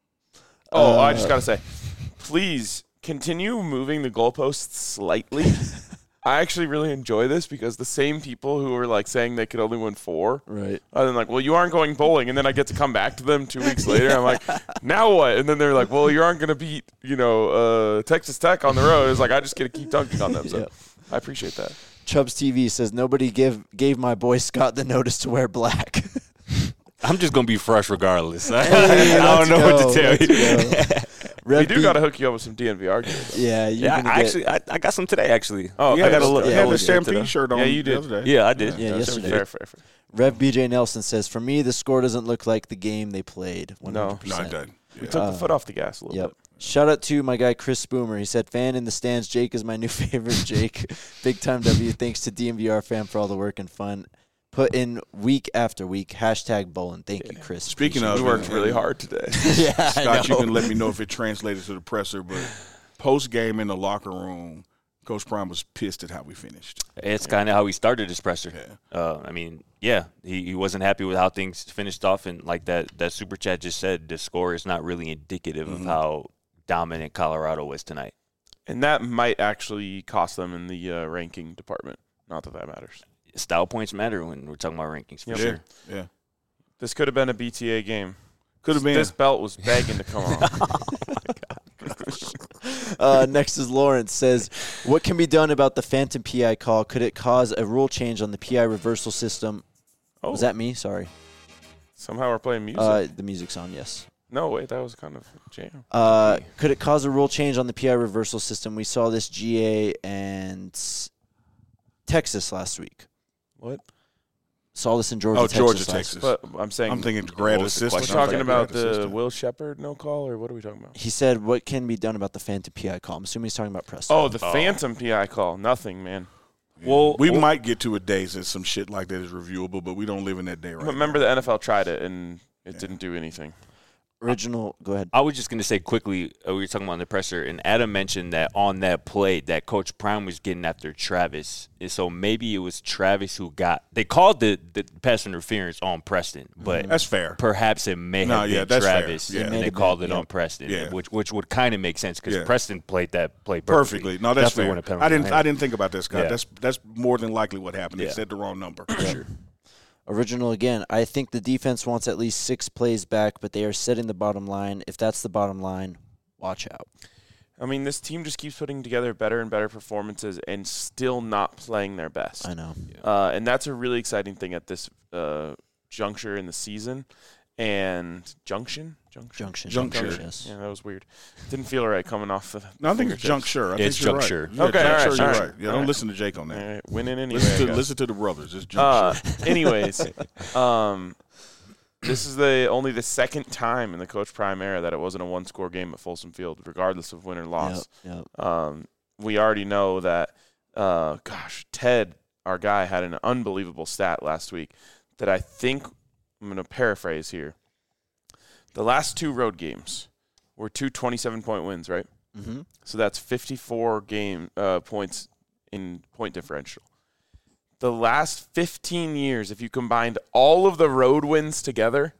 B: Oh, I
A: Uh,
B: just got to say, please continue moving the goalposts slightly. I actually really enjoy this because the same people who were like saying they could only win four
A: Right.
B: are then like, well, you aren't going bowling. And then I get to come back to them two weeks later. I'm like, now what? And then they're like, well, you aren't going to beat, you know, uh, Texas Tech on the road. It's like, I just get to keep dunking on them. So
A: Yep.
B: I appreciate that.
A: Chubbs T V says, nobody give, gave my boy Scott the notice to wear black.
D: I'm just gonna be fresh regardless. I
A: Hey,
D: don't
A: let's
D: know what
A: go,
D: to tell
A: let's
D: you.
A: go.
B: We
A: Red
B: do
A: B-
B: got to hook you up with some D N V R gear, though.
A: Yeah, you're
D: Yeah,
A: gonna
D: I
A: get,
D: actually, I, I got some today. Actually,
B: Oh,
C: Yeah,
D: I got a look.
C: He
A: yeah,
C: had
A: we'll
C: the
A: get
C: Stampede
D: today.
C: shirt on
B: Yeah, you
C: the
B: did.
C: other day.
D: Yeah, I did.
A: Yeah,
B: Fair,
A: yesterday.
B: Fair, fair, fair.
A: Rev B J Nelson says, for me, the score doesn't look like the game they played. one hundred percent.
C: No, it doesn't.
B: We
C: Yeah.
B: took
A: Uh,
B: the foot off the gas a little
A: Yep.
B: bit.
A: Shout out to my guy Chris Spoomer. He said, fan in the stands. Jake is my new favorite. Jake, big time W. Thanks to D M V R fam for all the work and fun put in week after week. Hashtag bowling. Thank you, Chris.
C: Speaking
A: Appreciate
C: of-
B: We worked really hard today.
A: it. yeah, I
C: Scott, you
A: know.
C: can let me know if it translated to the presser, but post game in the locker room, Coach Prime was pissed at how we finished.
D: It's kind of how he started his presser.
C: Yeah.
D: Uh, I mean, yeah, he, he wasn't happy with how things finished off, and like that that super chat just said, the score is not really indicative
C: Mhm.
D: of how dominant Colorado was tonight.
B: And that might actually cost them in the uh, ranking department. Not that that matters.
D: Style points matter when we're talking about rankings for
B: Yep.
D: sure.
C: Yeah.
B: This could have been a B T A game.
C: Could have been.
B: This belt was begging to come off.
A: Uh, next is Lawrence says, what can be done about the phantom P I call? Could it cause a rule change on the P I reversal system?
B: Oh,
A: Was that me? Sorry.
B: somehow we're playing music.
A: Uh, the music's on, yes.
B: no, wait, that was kind of a jam.
A: Uh, could it cause a rule change on the P I reversal system? We saw this G A and s- Texas last week.
B: What?
A: Saw this in Georgia,
C: Oh,
A: Texas.
C: Georgia,
A: last
C: Texas.
A: week.
B: But I'm saying
C: I'm thinking grad
D: What was the
C: assistant.
B: we're
D: question?
C: I'm
B: talking
C: thinking
B: about
C: grad
B: the
C: assistant.
B: Will Shepard no call, or what are we talking about?
A: He said, what can be done about the phantom P I call? I'm assuming he's talking about Preston.
B: Oh, the
D: Oh.
B: phantom P I call. Nothing, man.
C: Well, we
B: well-
C: might get to a day that some shit like that is reviewable, but we don't live in that day right
B: But remember, the N F L tried it and it didn't do anything.
A: Original, go ahead.
D: I was just going to say quickly, uh, we were talking about the presser, and Adam mentioned that on that play that Coach Prime was getting after Travis. And so maybe it was Travis who got – they called the, the pass interference on Preston, but
C: That's fair.
D: perhaps it may
C: No,
D: have
C: yeah,
D: been
C: that's fair.
D: Travis,
C: Yeah. It
D: and
A: may
D: they
A: have
D: called
A: been,
D: it
A: yeah.
D: on Preston,
C: Yeah.
D: which which would kind of make sense because
C: Yeah.
D: Preston played that play perfectly.
C: Perfectly. No, that's
D: Definitely
C: fair.
D: won a penalty
C: I didn't.
D: on
C: I
D: him.
C: didn't think about that, Scott.
D: Yeah.
C: That's that's more than likely what happened. They
D: Yeah.
C: said the wrong number.
D: Sure.
A: Original again. I think the defense wants at least six plays back, but they are setting the bottom line. If that's the bottom line, watch out.
B: I mean, this team just keeps putting together better and better performances and still not playing their best.
A: I know.
B: Uh, and that's a really exciting thing at this uh, juncture in the season. And junction? Junction.
A: Junction.
C: Juncture.
A: Junction, yes.
B: Yeah, that was weird. Didn't feel right coming off the
C: No, I think it's
B: fingertips.
C: juncture. I
D: It's
C: think you're
D: juncture.
C: Right. Yeah,
B: Okay, all right,
C: juncture,
B: all
C: you're
B: right.
C: right. Yeah,
B: All
C: don't
B: right.
C: listen to Jake on
B: All
C: that.
B: right, winning anyway.
C: Listen
B: I
C: to
B: guess.
C: listen to the brothers. It's
B: Uh,
C: juncture.
B: anyways, um, this is the only the second time in the Coach Prime era that it wasn't a one-score game at Folsom Field, regardless of win or loss.
A: Yep, yep.
B: Um, we already know that, uh, gosh, Ted, our guy, had an unbelievable stat last week that I think I'm going to paraphrase here. The last two road games were two twenty-seven-point wins, right?
A: Mm-hmm.
B: So that's fifty-four game uh, points in point differential. The last fifteen years, if you combined all of the road wins together,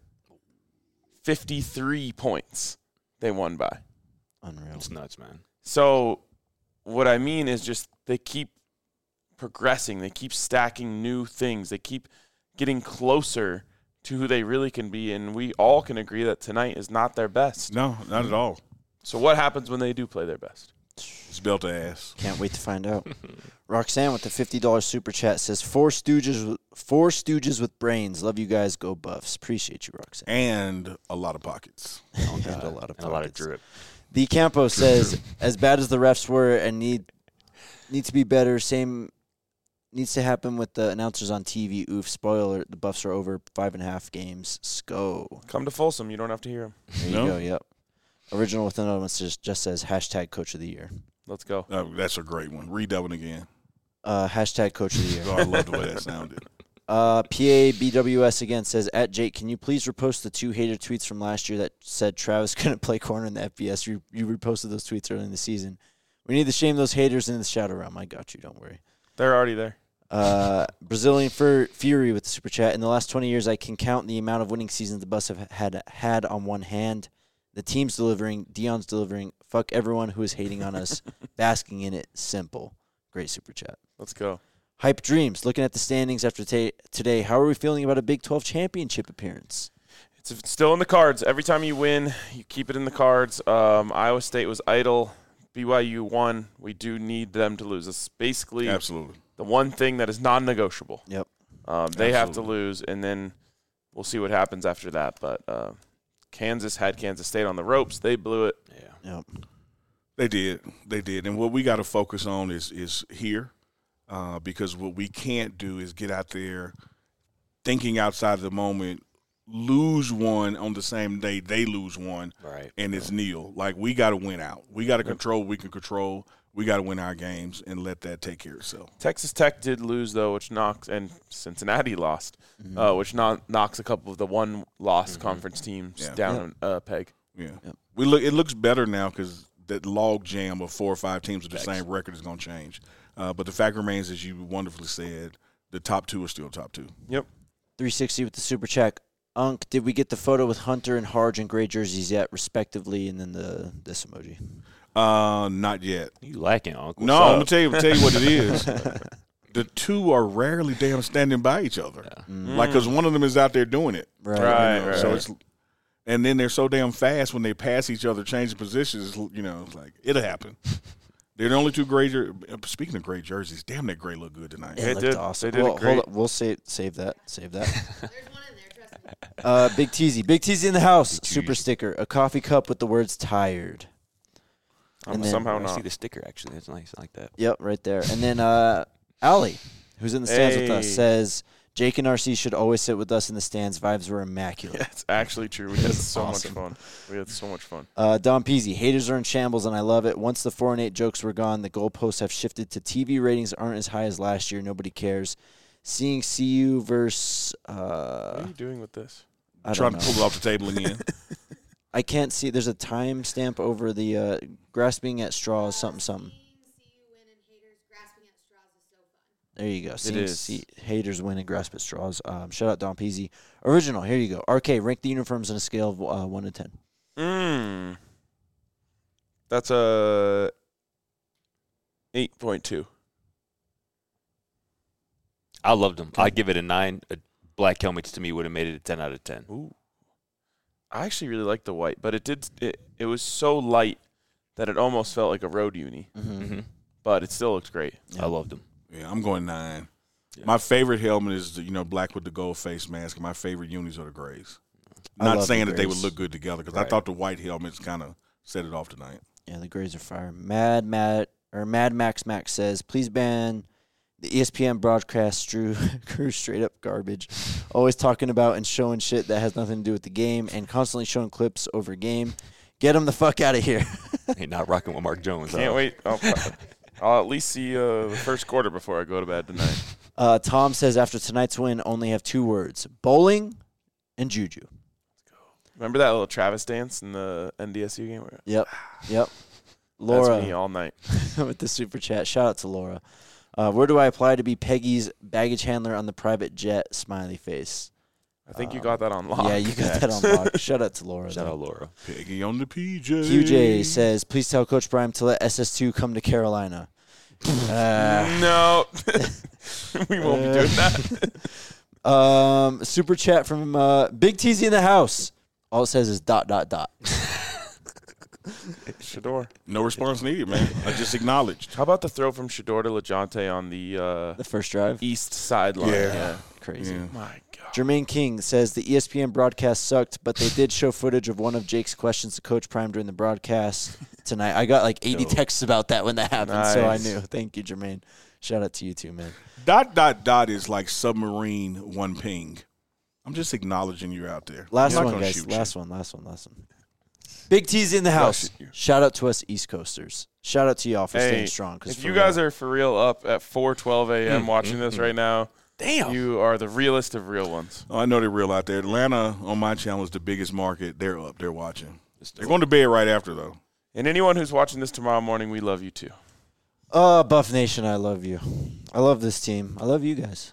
B: fifty-three points they won by.
A: Unreal.
D: It's nuts, man.
B: So what I mean is just they keep progressing. They keep stacking new things. They keep getting closer to who they really can be, and we all can agree that tonight is not their best.
C: No, not at all.
B: So what happens when they do play their best?
C: It's belt to ass.
A: Can't wait to find out. Roxanne with the fifty dollars super chat says, Four Stooges, four Stooges with brains. Love you guys. Go Buffs. Appreciate you, Roxanne.
C: And a lot of pockets.
A: And a lot of
D: And a lot of
A: pockets.
D: drip.
A: The Campo says, as bad as the refs were and need need to be better, same needs to happen with the announcers on T V. Oof, spoiler, the Buffs are over five and a half games. Sko.
B: Come to Folsom. You don't have to hear them.
A: There
C: No?
A: you go, yep. Original with another one just, just says hashtag coach of the year.
B: Let's go.
C: Uh, that's a great one. Read that one again.
A: Uh, hashtag coach of the year.
C: Oh, I love the way that sounded.
A: Uh, P A B W S again says, at Jake, can you please repost the two hater tweets from last year that said Travis couldn't play corner in the F B S? You, you reposted those tweets early in the season. We need to shame those haters in the shadow realm. I got you. Don't worry.
B: They're already there.
A: Uh, Brazilian Fur Fury with the super chat. In the last twenty years, I can count the amount of winning seasons the Buffs have had had on one hand. The team's delivering. Dion's delivering. Fuck everyone who is hating on us. Basking in it. Simple. Great super chat.
B: Let's go.
A: Hype Dreams. Looking at the standings after ta- today, how are we feeling about a Big twelve championship appearance?
B: It's it's still in the cards. Every time you win, you keep it in the cards. Um, Iowa State was idle. B Y U won. We do need them to lose. It's basically
C: Absolutely.
B: the one thing that is non-negotiable.
A: Yep.
B: Um, they have to
C: Absolutely.
B: lose, and then we'll see what happens after that. But uh, Kansas had Kansas State on the ropes. They blew it.
D: Yeah.
A: Yep.
C: They did. They did. And what we got to focus on is is here, uh, because what we can't do is get out there thinking outside the moment, lose one on the same day they lose one,
D: Right.
C: and it's nil. Like, we got to win out. We got to control what we can control. We got to win our games and let that take care of itself.
B: Texas Tech did lose, though, which knocks – and Cincinnati lost,
A: Mm-hmm.
B: uh, which no- knocks a couple of the one-loss conference teams
C: Yeah.
B: down a uh, peg.
C: Yeah.
A: Yep.
C: We look. It looks better now because that log jam of four or five teams with the same record is going to change. Uh, but the fact remains, as you wonderfully said, the top two are still top two.
B: Yep.
A: three sixty with the super chat. Unk, did we get the photo with Hunter and Harge in gray jerseys yet, respectively, and then the this emoji?
C: Uh, not yet.
D: You lacking, Uncle.
C: No, I'm gonna tell you, tell you what it is. The two are rarely damn standing by each other, like because one of them is out there doing it.
A: Right.
B: Right,
C: You know,
B: right.
C: So it's, and then they're so damn fast when they pass each other, changing positions. You know, it's like it'll happen. They're the only two gray. Jer- Speaking of gray jerseys, damn, that gray looked good tonight.
A: It
B: They
A: looked
B: did.
A: awesome.
B: They did a
A: well,
B: great-
A: hold on. We'll save save that. Save that.
E: There's one in there, trust me.
A: Uh, Big Teasy. Big Teasy in the house.
D: Big
A: Super
D: Teasy.
A: sticker. A coffee cup with the words tired.
B: Um,
A: And then-
B: somehow
D: I see
B: not.
D: the sticker, actually. That's nice. I like that.
A: Yep, right there. And then uh, Allie, who's in the stands with us,
B: Hey.
A: says Jake and R C should always sit with us in the stands. Vibes were immaculate.
B: That's actually true. We had so
A: awesome.
B: much fun. We had so much fun.
A: Uh, Don Peasy, haters are in shambles, and I love it. Once the four and eight jokes were gone, the goalposts have shifted to T V ratings aren't as high as last year. Nobody cares. Seeing C U versus
B: What
A: uh,
B: are you doing with this?
A: I
C: Trying
A: don't
C: to
A: know.
C: pull it off the table again.
A: I can't see. There's a time stamp over the uh, grasping at straws. Something something.
E: Seeing C U win and haters grasping at straws is so fun.
A: There you go. Seeing
B: is.
A: see, haters win and grasp at straws. Um, shout out Don Peasy. Original. Here you go. R K, rank the uniforms on a scale of uh, one to ten.
B: Mm. That's a eight point two.
D: I loved them. I'd give it a nine. A black helmets to me would have made it a ten out of ten.
B: Ooh. I actually really like the white, but it did it, it was so light that it almost felt like a road uni.
D: Mm-hmm.
B: But it still looks great.
D: I loved them.
C: Yeah, I'm going nine.
D: Yeah.
C: My favorite helmet is the, you know, black with the gold face mask, and my favorite unis are the grays.
A: I
C: Not
A: love
C: saying
A: the
C: that they would
A: grays.
C: look good together because
D: Right.
C: I thought the white helmets kind of set it off tonight.
A: Yeah, the Grays are fire. Mad Mad or Mad Max Max says, please ban the E S P N broadcast Drew crew straight up garbage. Always talking about and showing shit that has nothing to do with the game and constantly showing clips over game. Get them the fuck out of here.
D: Hey, not rocking with Mark Jones.
B: Can't
D: huh?
B: wait. I'll, I'll at least see uh, the first quarter before I go to bed tonight.
A: Uh, Tom says after tonight's win, only have two words: bowling and juju.
B: Remember that little Travis dance in the N D S U game?
A: Yep, yep.
B: That's me
A: Laura
B: all night.
A: with the super chat. Shout out to Laura. Uh, where do I apply to be Peggy's baggage handler on the private jet? Smiley face.
B: I think you
A: Um,
B: got that on lock.
A: Yeah, you got that on lock. Shout out to Laura.
D: Shout
A: though.
D: out Laura.
C: Peggy on the P J.
A: Q J says, please tell Coach Prime to let S S two come to Carolina. Uh,
B: No. We won't be doing that.
A: um, super chat from uh, Big T Z in the house. All it says is dot, dot, dot.
B: Shador.
C: No response needed, man. I just acknowledged.
B: How about the throw from Shador to LeJontay on the uh,
A: The first drive.
B: east sideline?
C: Yeah.
A: Crazy.
C: Yeah.
B: My God.
A: Jermaine King says the E S P N broadcast sucked, but they did show footage of one of Jake's questions to Coach Prime during the broadcast tonight. I got like eighty
C: Yo.
A: texts about that when that happened, so I
B: Nice.
A: knew. Thank you, Jermaine. Shout out to you too, man.
C: Dot, dot, dot is like submarine one ping. I'm just acknowledging you're out there.
A: Last
C: I'm not
A: one,
C: gonna
A: guys.
C: shoot
A: Last
C: you.
A: one, last one, last one. Big T's in the house.
B: shoot you.
A: Shout out to us East Coasters. Shout out to y'all for
B: Hey,
A: staying strong.
B: if you guys are for real up at four twelve a.m. watching this right now,
C: Damn.
B: you are the realest of real ones.
C: Oh, I know they're real out there. Atlanta on my channel is the biggest market. They're up. They're watching. They're going to bed right after, though.
B: And anyone who's watching this tomorrow morning, we love you too.
A: Oh, Buff Nation, I love you. I love this team. I love you guys.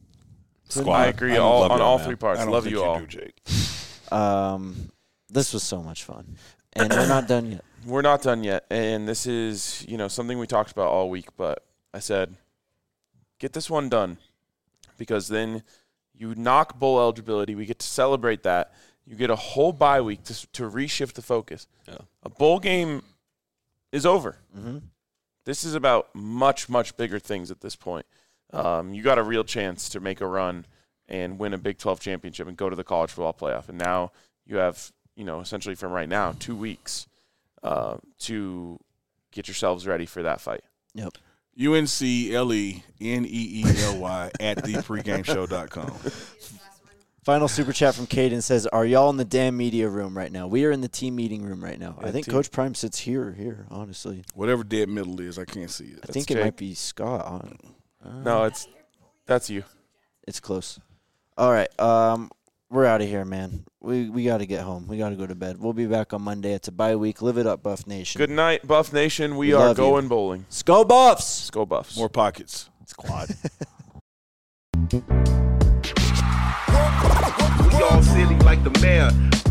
B: I agree
C: I don't
B: all,
C: love
B: on
C: y'all,
B: all
C: man.
B: three parts.
C: I don't
B: Love
C: think
B: you all.
C: do, Jake.
A: Um, this was so much fun, and we're not done yet.
B: We're not done yet, and this is, you know, something we talked about all week, but I said, get this one done, because then you knock bowl eligibility. We get to celebrate that. You get a whole bye week to, to reshift the focus.
D: Yeah.
B: A bowl game is over.
A: Mm-hmm.
B: This is about much, much bigger things at this point. Um, you got a real chance to make a run and win a Big twelve championship and go to the college football playoff. And now you have, you know, essentially from right now, two weeks uh, to get yourselves ready for that fight.
A: Yep.
C: U N C L E N E E L Y at the pregame show dot com.
A: Final super chat from Caden says, "Are y'all in the damn media room right now? We are in the team meeting room right now.
B: Yeah,
A: I think
B: team.
A: Coach Prime sits here or here. Honestly,
C: Whatever dead middle is, I can't see it.
A: I think
B: Jake.
A: it might be Scott. hon- Uh,
B: No, it's that's you.
A: it's close. All right, um, we're out of here, man. We we got to get home. We got to go to bed. We'll be back on Monday. It's a bye week. Live it up, Buff Nation.
B: Good night, Buff Nation. We,
A: We
B: are
A: love you.
B: going bowling.
A: Let's go, Buffs.
B: Let's go, Buffs.
C: More pockets.
D: It's quad.
F: We all silly like the mayor.